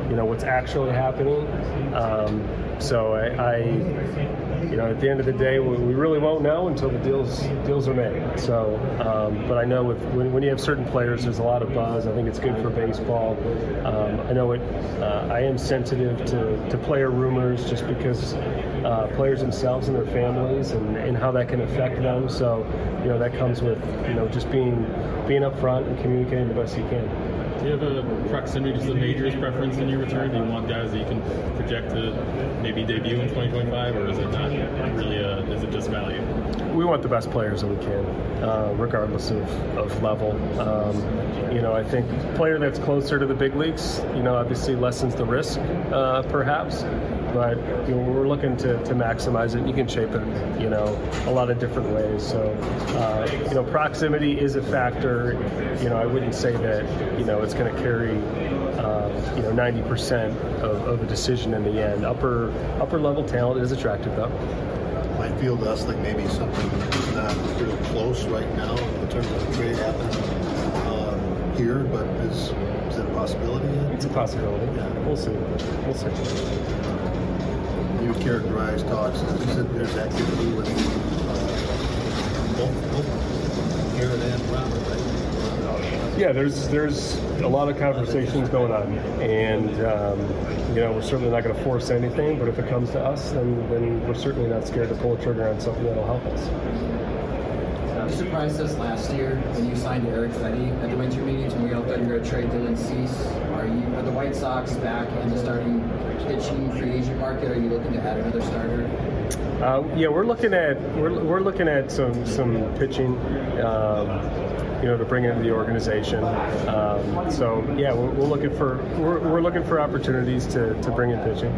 you know, what's actually happening. Um, so I, I, you know, at the end of the day, we, we really won't know until the deals deals are made. So, um, but I know with, when, when you have certain players, there's a lot of buzz. I think it's good for baseball. Um, I know it. Uh, I am sensitive to, to player rumors just because uh, players themselves and their families and, and how that can affect them. So, you know, that comes with, you know, just being being upfront and communicating the best you can. Do you have a proximity to the majors preference in your return? Do you want guys that you can project to maybe debut in twenty twenty-five, or is it not really a, is it just value? We want the best players that we can, uh, regardless of, of level. Um, you know, I think a player that's closer to the big leagues, you know, obviously lessens the risk, uh, perhaps. But you know, we're looking to, to maximize it. You can shape it, you know, a lot of different ways. So, uh, you know, proximity is a factor. You know, I wouldn't say that, you know, it's going to carry, uh, you know, ninety percent of, of a decision in the end. Upper upper level talent is attractive, though. Might feel to us like maybe something is not real close right now in terms of the trade happening um, here, but is, is it a possibility yet? It's a possibility. Yeah, we'll see. We'll see. You would characterize talks as you said there's activity with uh, both, both Garrett and Robert, right? Yeah, there's there's a lot of conversations going on, and um, you know, we're certainly not going to force anything. But if it comes to us, then then we're certainly not scared to pull a trigger on something that'll help us. You surprised us last year when you signed Eric Fetty at the winter meetings when we all thought you were going to trade Dylan Cease. Are you are the White Sox back in the starting pitching free agent market? Are you looking to add another starter? Uh, yeah, we're looking at we're, we're looking at some some pitching. Um, you know, to bring into the organization. Um, so yeah, we're, we're looking for we're, we're looking for opportunities to, to bring in pitching.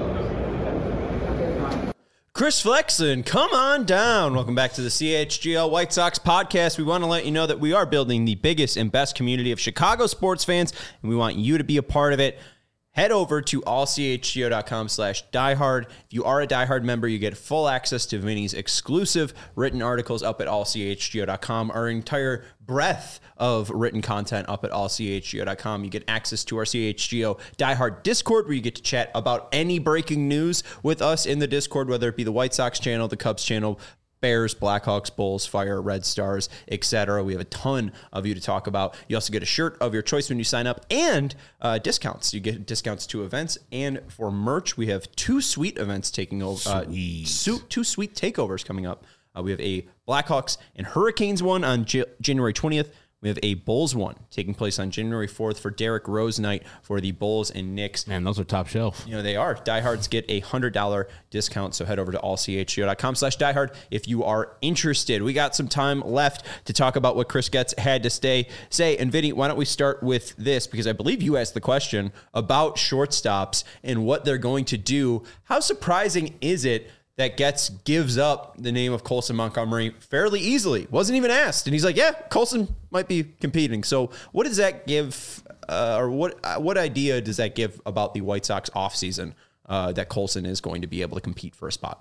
Chris Flexen, come on down. Welcome back to the C H G O White Sox podcast. We want to let you know that we are building the biggest and best community of Chicago sports fans, and we want you to be a part of it. Head over to all c h g o dot com slash diehard. If you are a diehard member, you get full access to Vinny's exclusive written articles up at all c h g o dot com. Our entire breadth of written content up at all c h g o dot com. You get access to our C H G O Diehard Discord, where you get to chat about any breaking news with us in the Discord, whether it be the White Sox channel, the Cubs channel, Bears, Blackhawks, Bulls, Fire, Red Stars, et cetera. We have a ton of you to talk about. You also get a shirt of your choice when you sign up, and uh, discounts. You get discounts to events, and for merch, we have two sweet events taking over. Uh, su- two sweet takeovers coming up. Uh, we have a Blackhawks and Hurricanes one on J- January twentieth. We have a Bulls one taking place on January fourth for Derrick Rose night for the Bulls and Knicks. Man, those are top shelf. You know, they are. Diehards get a one hundred dollars discount, so head over to all c h g o dot com slash diehard if you are interested. We got some time left to talk about what Chris Getz had to stay, say. And Vinny, why don't we start with this? Because I believe you asked the question about shortstops and what they're going to do. How surprising is it that Getz gives up the name of Colson Montgomery fairly easily? Wasn't even asked. And he's like, yeah, Colson might be competing. So what does that give, uh, or what uh, what idea does that give about the White Sox offseason uh, that Colson is going to be able to compete for a spot?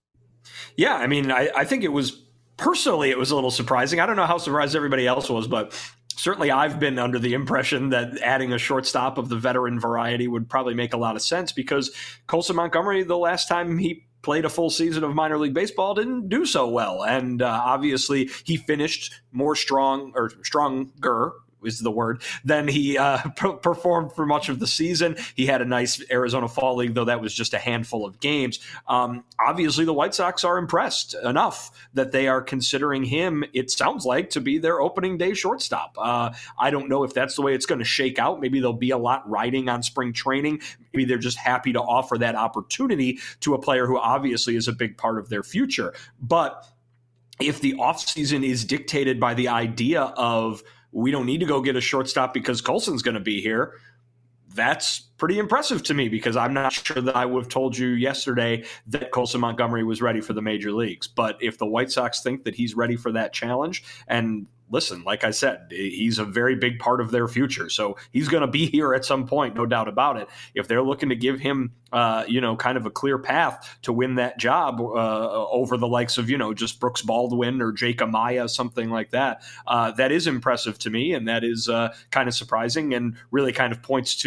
Yeah, I mean, I, I think it was, personally, it was a little surprising. I don't know how surprised everybody else was, but certainly I've been under the impression that adding a shortstop of the veteran variety would probably make a lot of sense, because Colson Montgomery, the last time he played a full season of minor league baseball, didn't do so well. And uh, obviously he finished more strong or stronger is the word, than he uh, p- performed for much of the season. He had a nice Arizona Fall League, though that was just a handful of games. Um, obviously, the White Sox are impressed enough that they are considering him, it sounds like, to be their opening day shortstop. Uh, I don't know if that's the way it's going to shake out. Maybe there'll be a lot riding on spring training. Maybe they're just happy to offer that opportunity to a player who obviously is a big part of their future. But if the offseason is dictated by the idea of, we don't need to go get a shortstop because Colson's going to be here, that's pretty impressive to me, because I'm not sure that I would have told you yesterday that Colson Montgomery was ready for the major leagues. But if the White Sox think that he's ready for that challenge, and listen, like I said, he's a very big part of their future. So he's going to be here at some point, no doubt about it. If they're looking to give him, uh, you know, kind of a clear path to win that job uh, over the likes of, you know, just Brooks Baldwin or Jake Amaya, something like that, uh, that is impressive to me. And that is uh, kind of surprising, and really kind of points to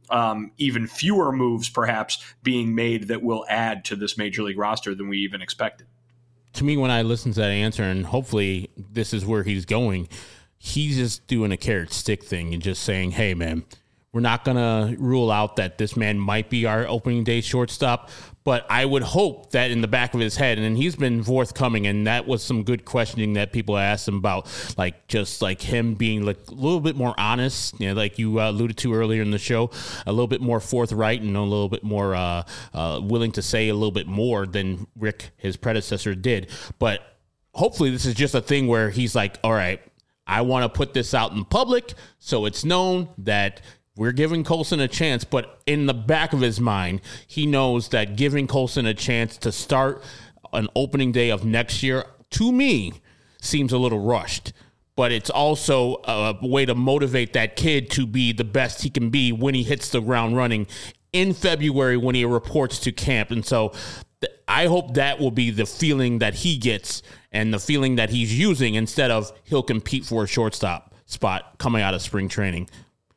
um, even fewer moves perhaps being made that will add to this major league roster than we even expected. To me, when I listen to that answer, and hopefully this is where he's going, he's just doing a carrot stick thing and just saying, hey, man, we're not going to rule out that this man might be our opening day shortstop, but I would hope that in the back of his head, and he's been forthcoming, and that was some good questioning that people asked him about, like just like him being like a little bit more honest, you know, like you uh, alluded to earlier in the show, a little bit more forthright and a little bit more uh, uh, willing to say a little bit more than Rick, his predecessor, did. But hopefully this is just a thing where he's like, all right, I want to put this out in public so it's known that we're giving Colson a chance, but in the back of his mind, he knows that giving Colson a chance to start an opening day of next year, to me, seems a little rushed. But it's also a way to motivate that kid to be the best he can be when he hits the ground running in February when he reports to camp. And so th- I hope that will be the feeling that he gets and the feeling that he's using instead of he'll compete for a shortstop spot coming out of spring training.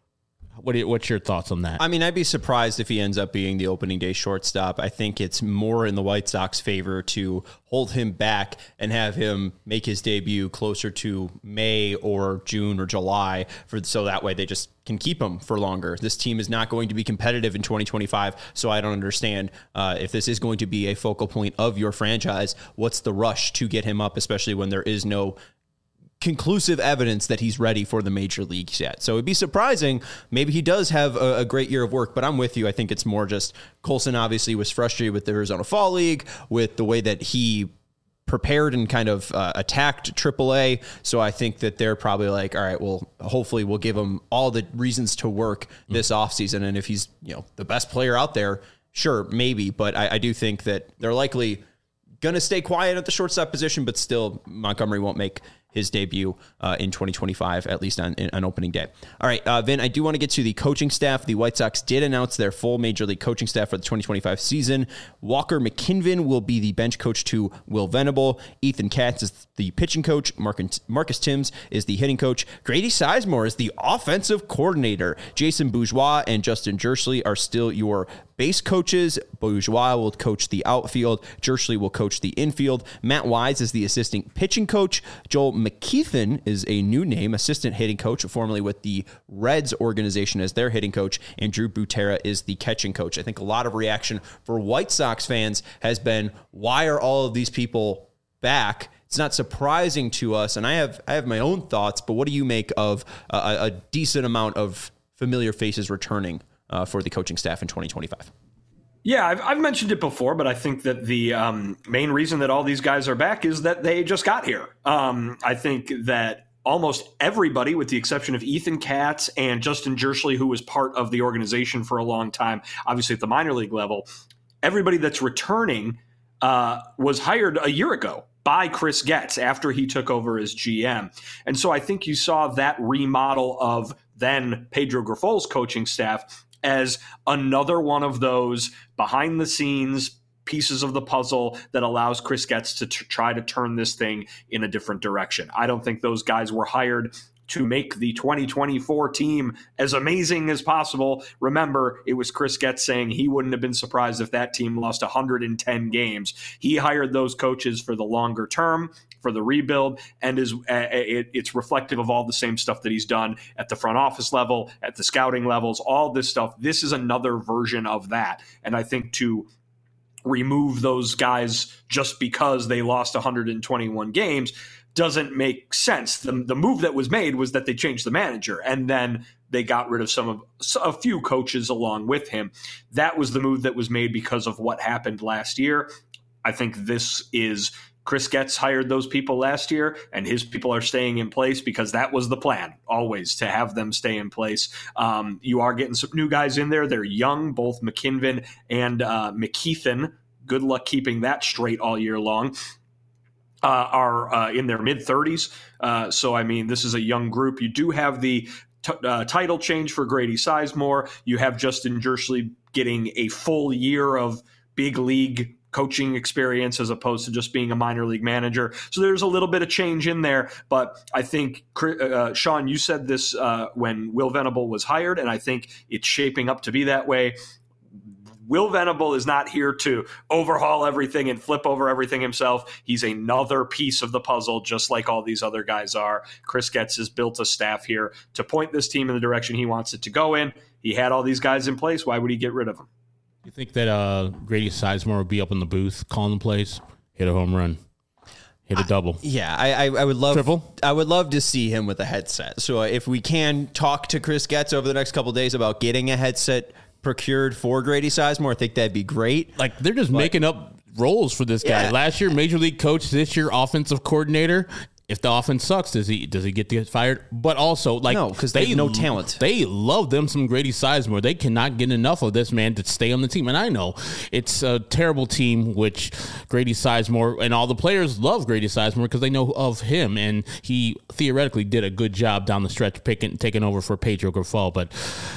What are, what's your thoughts on that? I mean, I'd be surprised if he ends up being the opening day shortstop. I think it's more in the White Sox favor to hold him back and have him make his debut closer to May or June or July, for so that way they just can keep him for longer. This team is not going to be competitive in twenty twenty-five, so I don't understand uh, if this is going to be a focal point of your franchise, what's the rush to get him up, especially when there is no conclusive evidence that he's ready for the major leagues yet. So it'd be surprising. Maybe he does have a, a great year of work, but I'm with you. I think it's more just Colson obviously was frustrated with the Arizona Fall League, with the way that he prepared and kind of uh, attacked triple A. So I think that they're probably like, all right, well, hopefully we'll give him all the reasons to work this offseason. And if he's, you know, the best player out there, sure, maybe. But I, I do think that they're likely going to stay quiet at the shortstop position, but still Montgomery won't make his debut uh, in twenty twenty-five, at least on, on opening day. All right, uh, Vin, I do want to get to the coaching staff. The White Sox did announce their full Major League coaching staff for the twenty twenty-five season. Walker McKinven will be the bench coach to Will Venable. Ethan Katz is the pitching coach. Marcus, Marcus Timms is the hitting coach. Grady Sizemore is the offensive coordinator. Jason Bourgeois and Justin Jersley are still your base coaches. Bourgeois will coach the outfield. Jersley will coach the infield. Matt Wise is the assistant pitching coach. Joel McKeithen is a new name, assistant hitting coach, formerly with the Reds organization as their hitting coach. And Drew Butera is the catching coach. I think a lot of reaction for White Sox fans has been, why are all of these people back? It's not surprising to us, and I have I have my own thoughts, but what do you make of a, a decent amount of familiar faces returning uh, for the coaching staff in twenty twenty-five? Yeah, I've, I've mentioned it before, but I think that the um, main reason that all these guys are back is that they just got here. Um, I think that almost everybody, with the exception of Ethan Katz and Justin Jersley, who was part of the organization for a long time, obviously at the minor league level, everybody that's returning uh, was hired a year ago by Chris Getz after he took over as G M. And so I think you saw that remodel of then Pedro Grifol's coaching staff as another one of those behind the scenes pieces of the puzzle that allows Chris Getz to t- try to turn this thing in a different direction. I don't think those guys were hired to make the twenty twenty-four team as amazing as possible. Remember, it was Chris Getz saying he wouldn't have been surprised if that team lost one hundred ten games. He hired those coaches for the longer term, for the rebuild, and is uh, it, it's reflective of all the same stuff that he's done at the front office level, at the scouting levels, all this stuff. This is another version of that. And I think to remove those guys just because they lost one hundred twenty-one games doesn't make sense. The, the move that was made was that they changed the manager, and then they got rid of some of a few coaches along with him. That was the move that was made because of what happened last year. I think this is Chris Getz hired those people last year, and his people are staying in place because that was the plan, always, to have them stay in place. Um, you are getting some new guys in there. They're young, both McKinven and uh, McKeithen. Good luck keeping that straight all year long. Uh, are uh, in their mid-thirties. Uh, so, I mean, this is a young group. You do have the t- uh, title change for Grady Sizemore. You have Justin Jersley getting a full year of big league coaching experience as opposed to just being a minor league manager. So there's a little bit of change in there. But I think, uh, Sean, you said this uh, when Will Venable was hired, and I think it's shaping up to be that way. Will Venable is not here to overhaul everything and flip over everything himself. He's another piece of the puzzle, just like all these other guys are. Chris Getz has built a staff here to point this team in the direction he wants it to go in. He had all these guys in place. Why would he get rid of them? You think that uh, Grady Sizemore would be up in the booth calling the plays, hit a home run, hit a double? I, yeah, I, I, I would love Triple? I would love to see him with a headset. So uh, if we can talk to Chris Getz over the next couple of days about getting a headset procured for Grady Sizemore, I think that'd be great. Like, they're just but, making up roles for this guy. Yeah. Last year, major league coach. This year, offensive coordinator. If the offense sucks, does he does he get to get fired? But also, like, no, because they have no talent. They love them some Grady Sizemore. They cannot get enough of this man to stay on the team. And I know it's a terrible team, which Grady Sizemore and all the players love Grady Sizemore because they know of him, and he theoretically did a good job down the stretch picking taking over for Pedro Grifol. But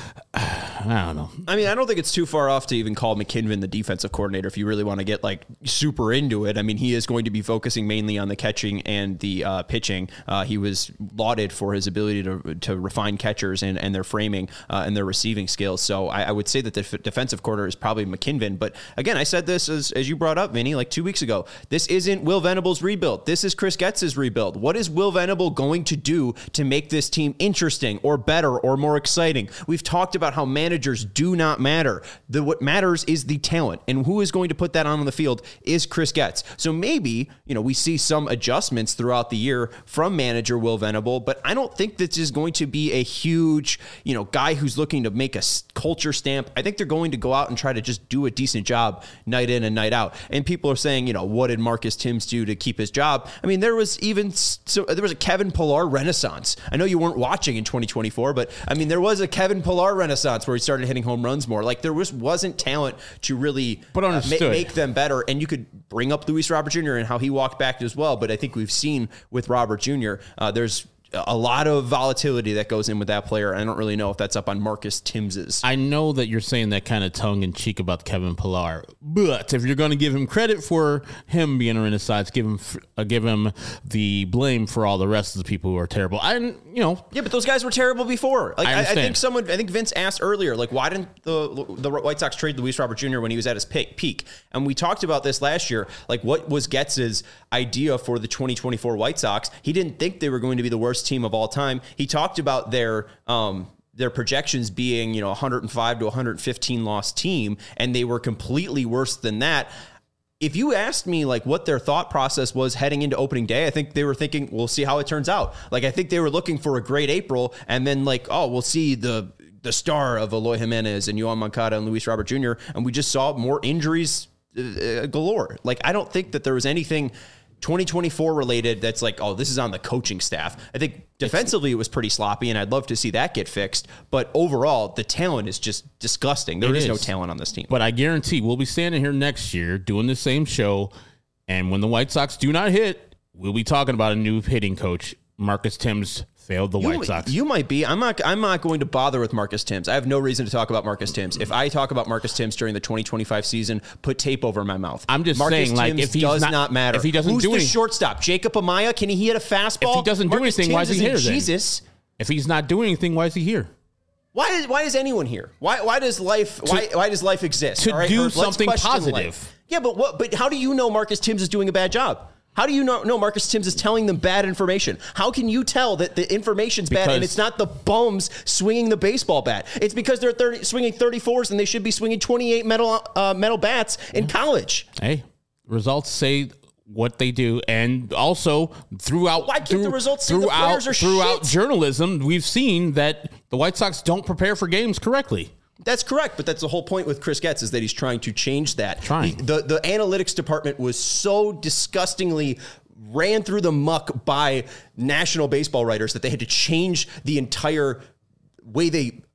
I don't know. I mean, I don't think it's too far off to even call McKinven the defensive coordinator if you really want to get like super into it. I mean, he is going to be focusing mainly on the catching and the uh, pitching. Uh, he was lauded for his ability to to refine catchers and, and their framing uh, and their receiving skills. So I, I would say that the f- defensive coordinator is probably McKinven. But again, I said this as, as you brought up, Vinny, like two weeks ago. This isn't Will Venable's rebuild. This is Chris Getz's rebuild. What is Will Venable going to do to make this team interesting or better or more exciting? We've talked about how managers do not matter. The what matters is the talent, and who is going to put that on the field is Chris Getz. So maybe, you know, we see some adjustments throughout the year from manager Will Venable, but I don't think this is going to be a huge, you know, guy who's looking to make a culture stamp. I think they're going to go out and try to just do a decent job night in and night out. And people are saying, you know, what did Marcus Timms do to keep his job? I mean, there was even so there was a Kevin Pillar renaissance. I know you weren't watching in twenty twenty-four, but I mean, there was a Kevin Pillar renaissance where he started hitting home runs more. Like, there was, wasn't talent to really but uh, ma- make them better. And you could bring up Luis Robert Junior and how he walked back as well. But I think we've seen with Robert Junior, uh, there's a lot of volatility that goes in with that player. I don't really know if that's up on Marcus Timms's. I know that you're saying that kind of tongue in cheek about Kevin Pillar, but if you're going to give him credit for him being a renaissance, give him uh, give him the blame for all the rest of the people who are terrible. I, you know, yeah, but those guys were terrible before. Like, I, I, I think someone, I think Vince asked earlier, like, why didn't the the White Sox trade Luis Robert Junior when he was at his peak? And we talked about this last year. Like, what was Getz's idea for the twenty twenty-four White Sox? He didn't think they were going to be the worst team of all time. He talked about their um, their projections being, you know, one hundred five to one hundred fifteen loss team, and they were completely worse than that. If you asked me like what their thought process was heading into opening day, I think they were thinking, we'll see how it turns out. Like, I think they were looking for a great April, and then like, oh, we'll see the the star of Eloy Jimenez and Yoan Moncada and Luis Robert Junior, and we just saw more injuries uh, galore. Like, I don't think that there was anything twenty twenty-four related that's like, oh, this is on the coaching staff. I think defensively it was pretty sloppy, and I'd love to see that get fixed. But overall, the talent is just disgusting. There is no talent on this team. But I guarantee we'll be standing here next year doing the same show, and when the White Sox do not hit, we'll be talking about a new hitting coach. Marcus Timms failed the you, White Sox. You might be. I'm not. I'm not going to bother with Marcus Timms. I have no reason to talk about Marcus Timms. If I talk about Marcus Timms during the twenty twenty-five season, put tape over my mouth. I'm just Marcus saying, like, Timms if he does not, not matter, if he doesn't who's do the anything, shortstop? Jacob Amaya? Can he hit a fastball? If he doesn't do Marcus anything, Timms why is he here? Then? Jesus. If he's not doing anything, why is he here? Why is why is anyone here? Why why does life to, why why does life exist? To all right? do Or something positive. Life. Yeah, but what? But how do you know Marcus Timms is doing a bad job? How do you know, know Marcus Timms is telling them bad information? How can you tell that the information's because bad and it's not the bums swinging the baseball bat? It's because they're thirty, swinging thirty-fours and they should be swinging twenty-eight metal uh, metal bats in college. Hey, results say what they do, and also throughout why can't through, the results say throughout, the players are throughout shit? Journalism, we've seen that the White Sox don't prepare for games correctly. That's correct, but that's the whole point with Chris Getz is that he's trying to change that. Trying. He, the the analytics department was so disgustingly ran through the muck by national baseball writers that they had to change the entire way they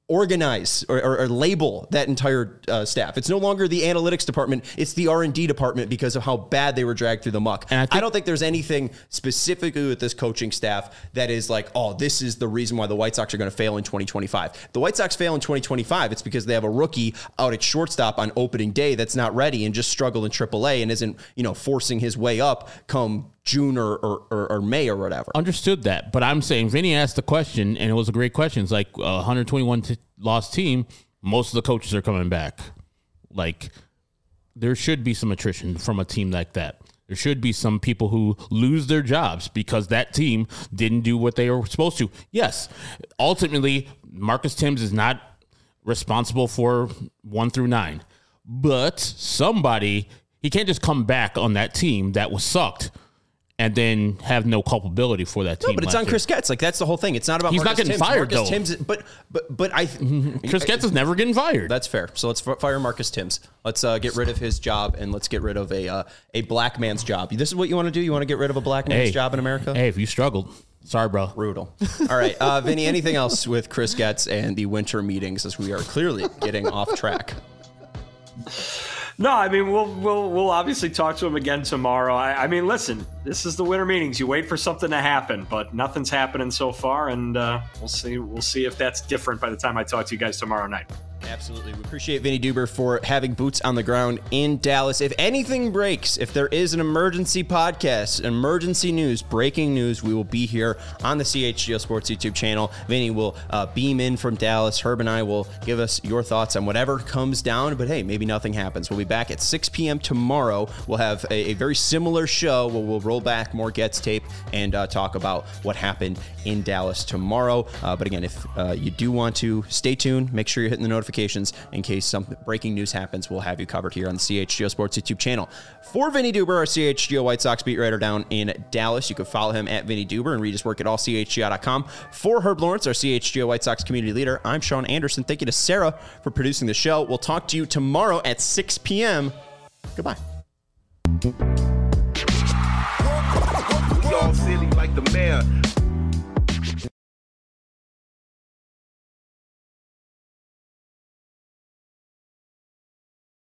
organize or, or, or label that entire uh, staff. It's no longer the analytics department. It's the R and D department because of how bad they were dragged through the muck. And I, think- I don't think there's anything specifically with this coaching staff that is like, oh, this is the reason why the White Sox are going to fail in twenty twenty-five. If the White Sox fail in twenty twenty-five, it's because they have a rookie out at shortstop on opening day that's not ready and just struggled in triple A and isn't, you know, forcing his way up come June or, or, or, or May or whatever. Understood that. But I'm saying Vinny asked the question, and it was a great question. It's like a one hundred twenty-one t- loss team. Most of the coaches are coming back. Like, there should be some attrition from a team like that. There should be some people who lose their jobs because that team didn't do what they were supposed to. Yes, ultimately, Marcus Thames is not responsible for one through nine. But somebody, he can't just come back on that team that was sucked and then have no culpability for that team. No, but it's on year. Chris Getz. Like, that's the whole thing. It's not about He's Marcus not getting Thames. fired, Marcus though. Thames, but, but, but I... Chris Getz is never getting fired. That's fair. So let's f- fire Marcus Thames. Let's uh, get rid of his job, and let's get rid of a uh, a black man's job. This is what you want to do? You want to get rid of a black man's hey, job in America? Hey, if you struggled, sorry, bro. Brutal. All right. Uh, Vinny, anything else with Chris Getz and the winter meetings as we are clearly getting off track? No, I mean, we'll we'll we'll obviously talk to him again tomorrow. I, I mean, listen, this is the winter meetings. You wait for something to happen, but nothing's happening so far, and uh, we'll see. We'll see if that's different by the time I talk to you guys tomorrow night. Absolutely. We appreciate Vinny Duber for having boots on the ground in Dallas. If anything breaks, if there is an emergency podcast, emergency news, breaking news, we will be here on the C H G O Sports YouTube channel. Vinny will uh, beam in from Dallas. Herb and I will give us your thoughts on whatever comes down. But hey, maybe nothing happens. We'll be back at six p.m. tomorrow. We'll have a, a very similar show where we'll roll back more Getz tape and uh, talk about what happened in Dallas tomorrow. Uh, but again, if uh, you do want to stay tuned, make sure you're hitting the notifications in case some breaking news happens. We'll have you covered here on the C H G O Sports YouTube channel. For Vinny Duber, our C H G O White Sox beat writer down in Dallas, you can follow him at Vinny Duber and read his work at all C H G O dot com. For Herb Lawrence, our C H G O White Sox community leader, I'm Sean Anderson. Thank you to Sarah for producing the show. We'll talk to you tomorrow at six p.m. Goodbye. Y'all silly like the mayor.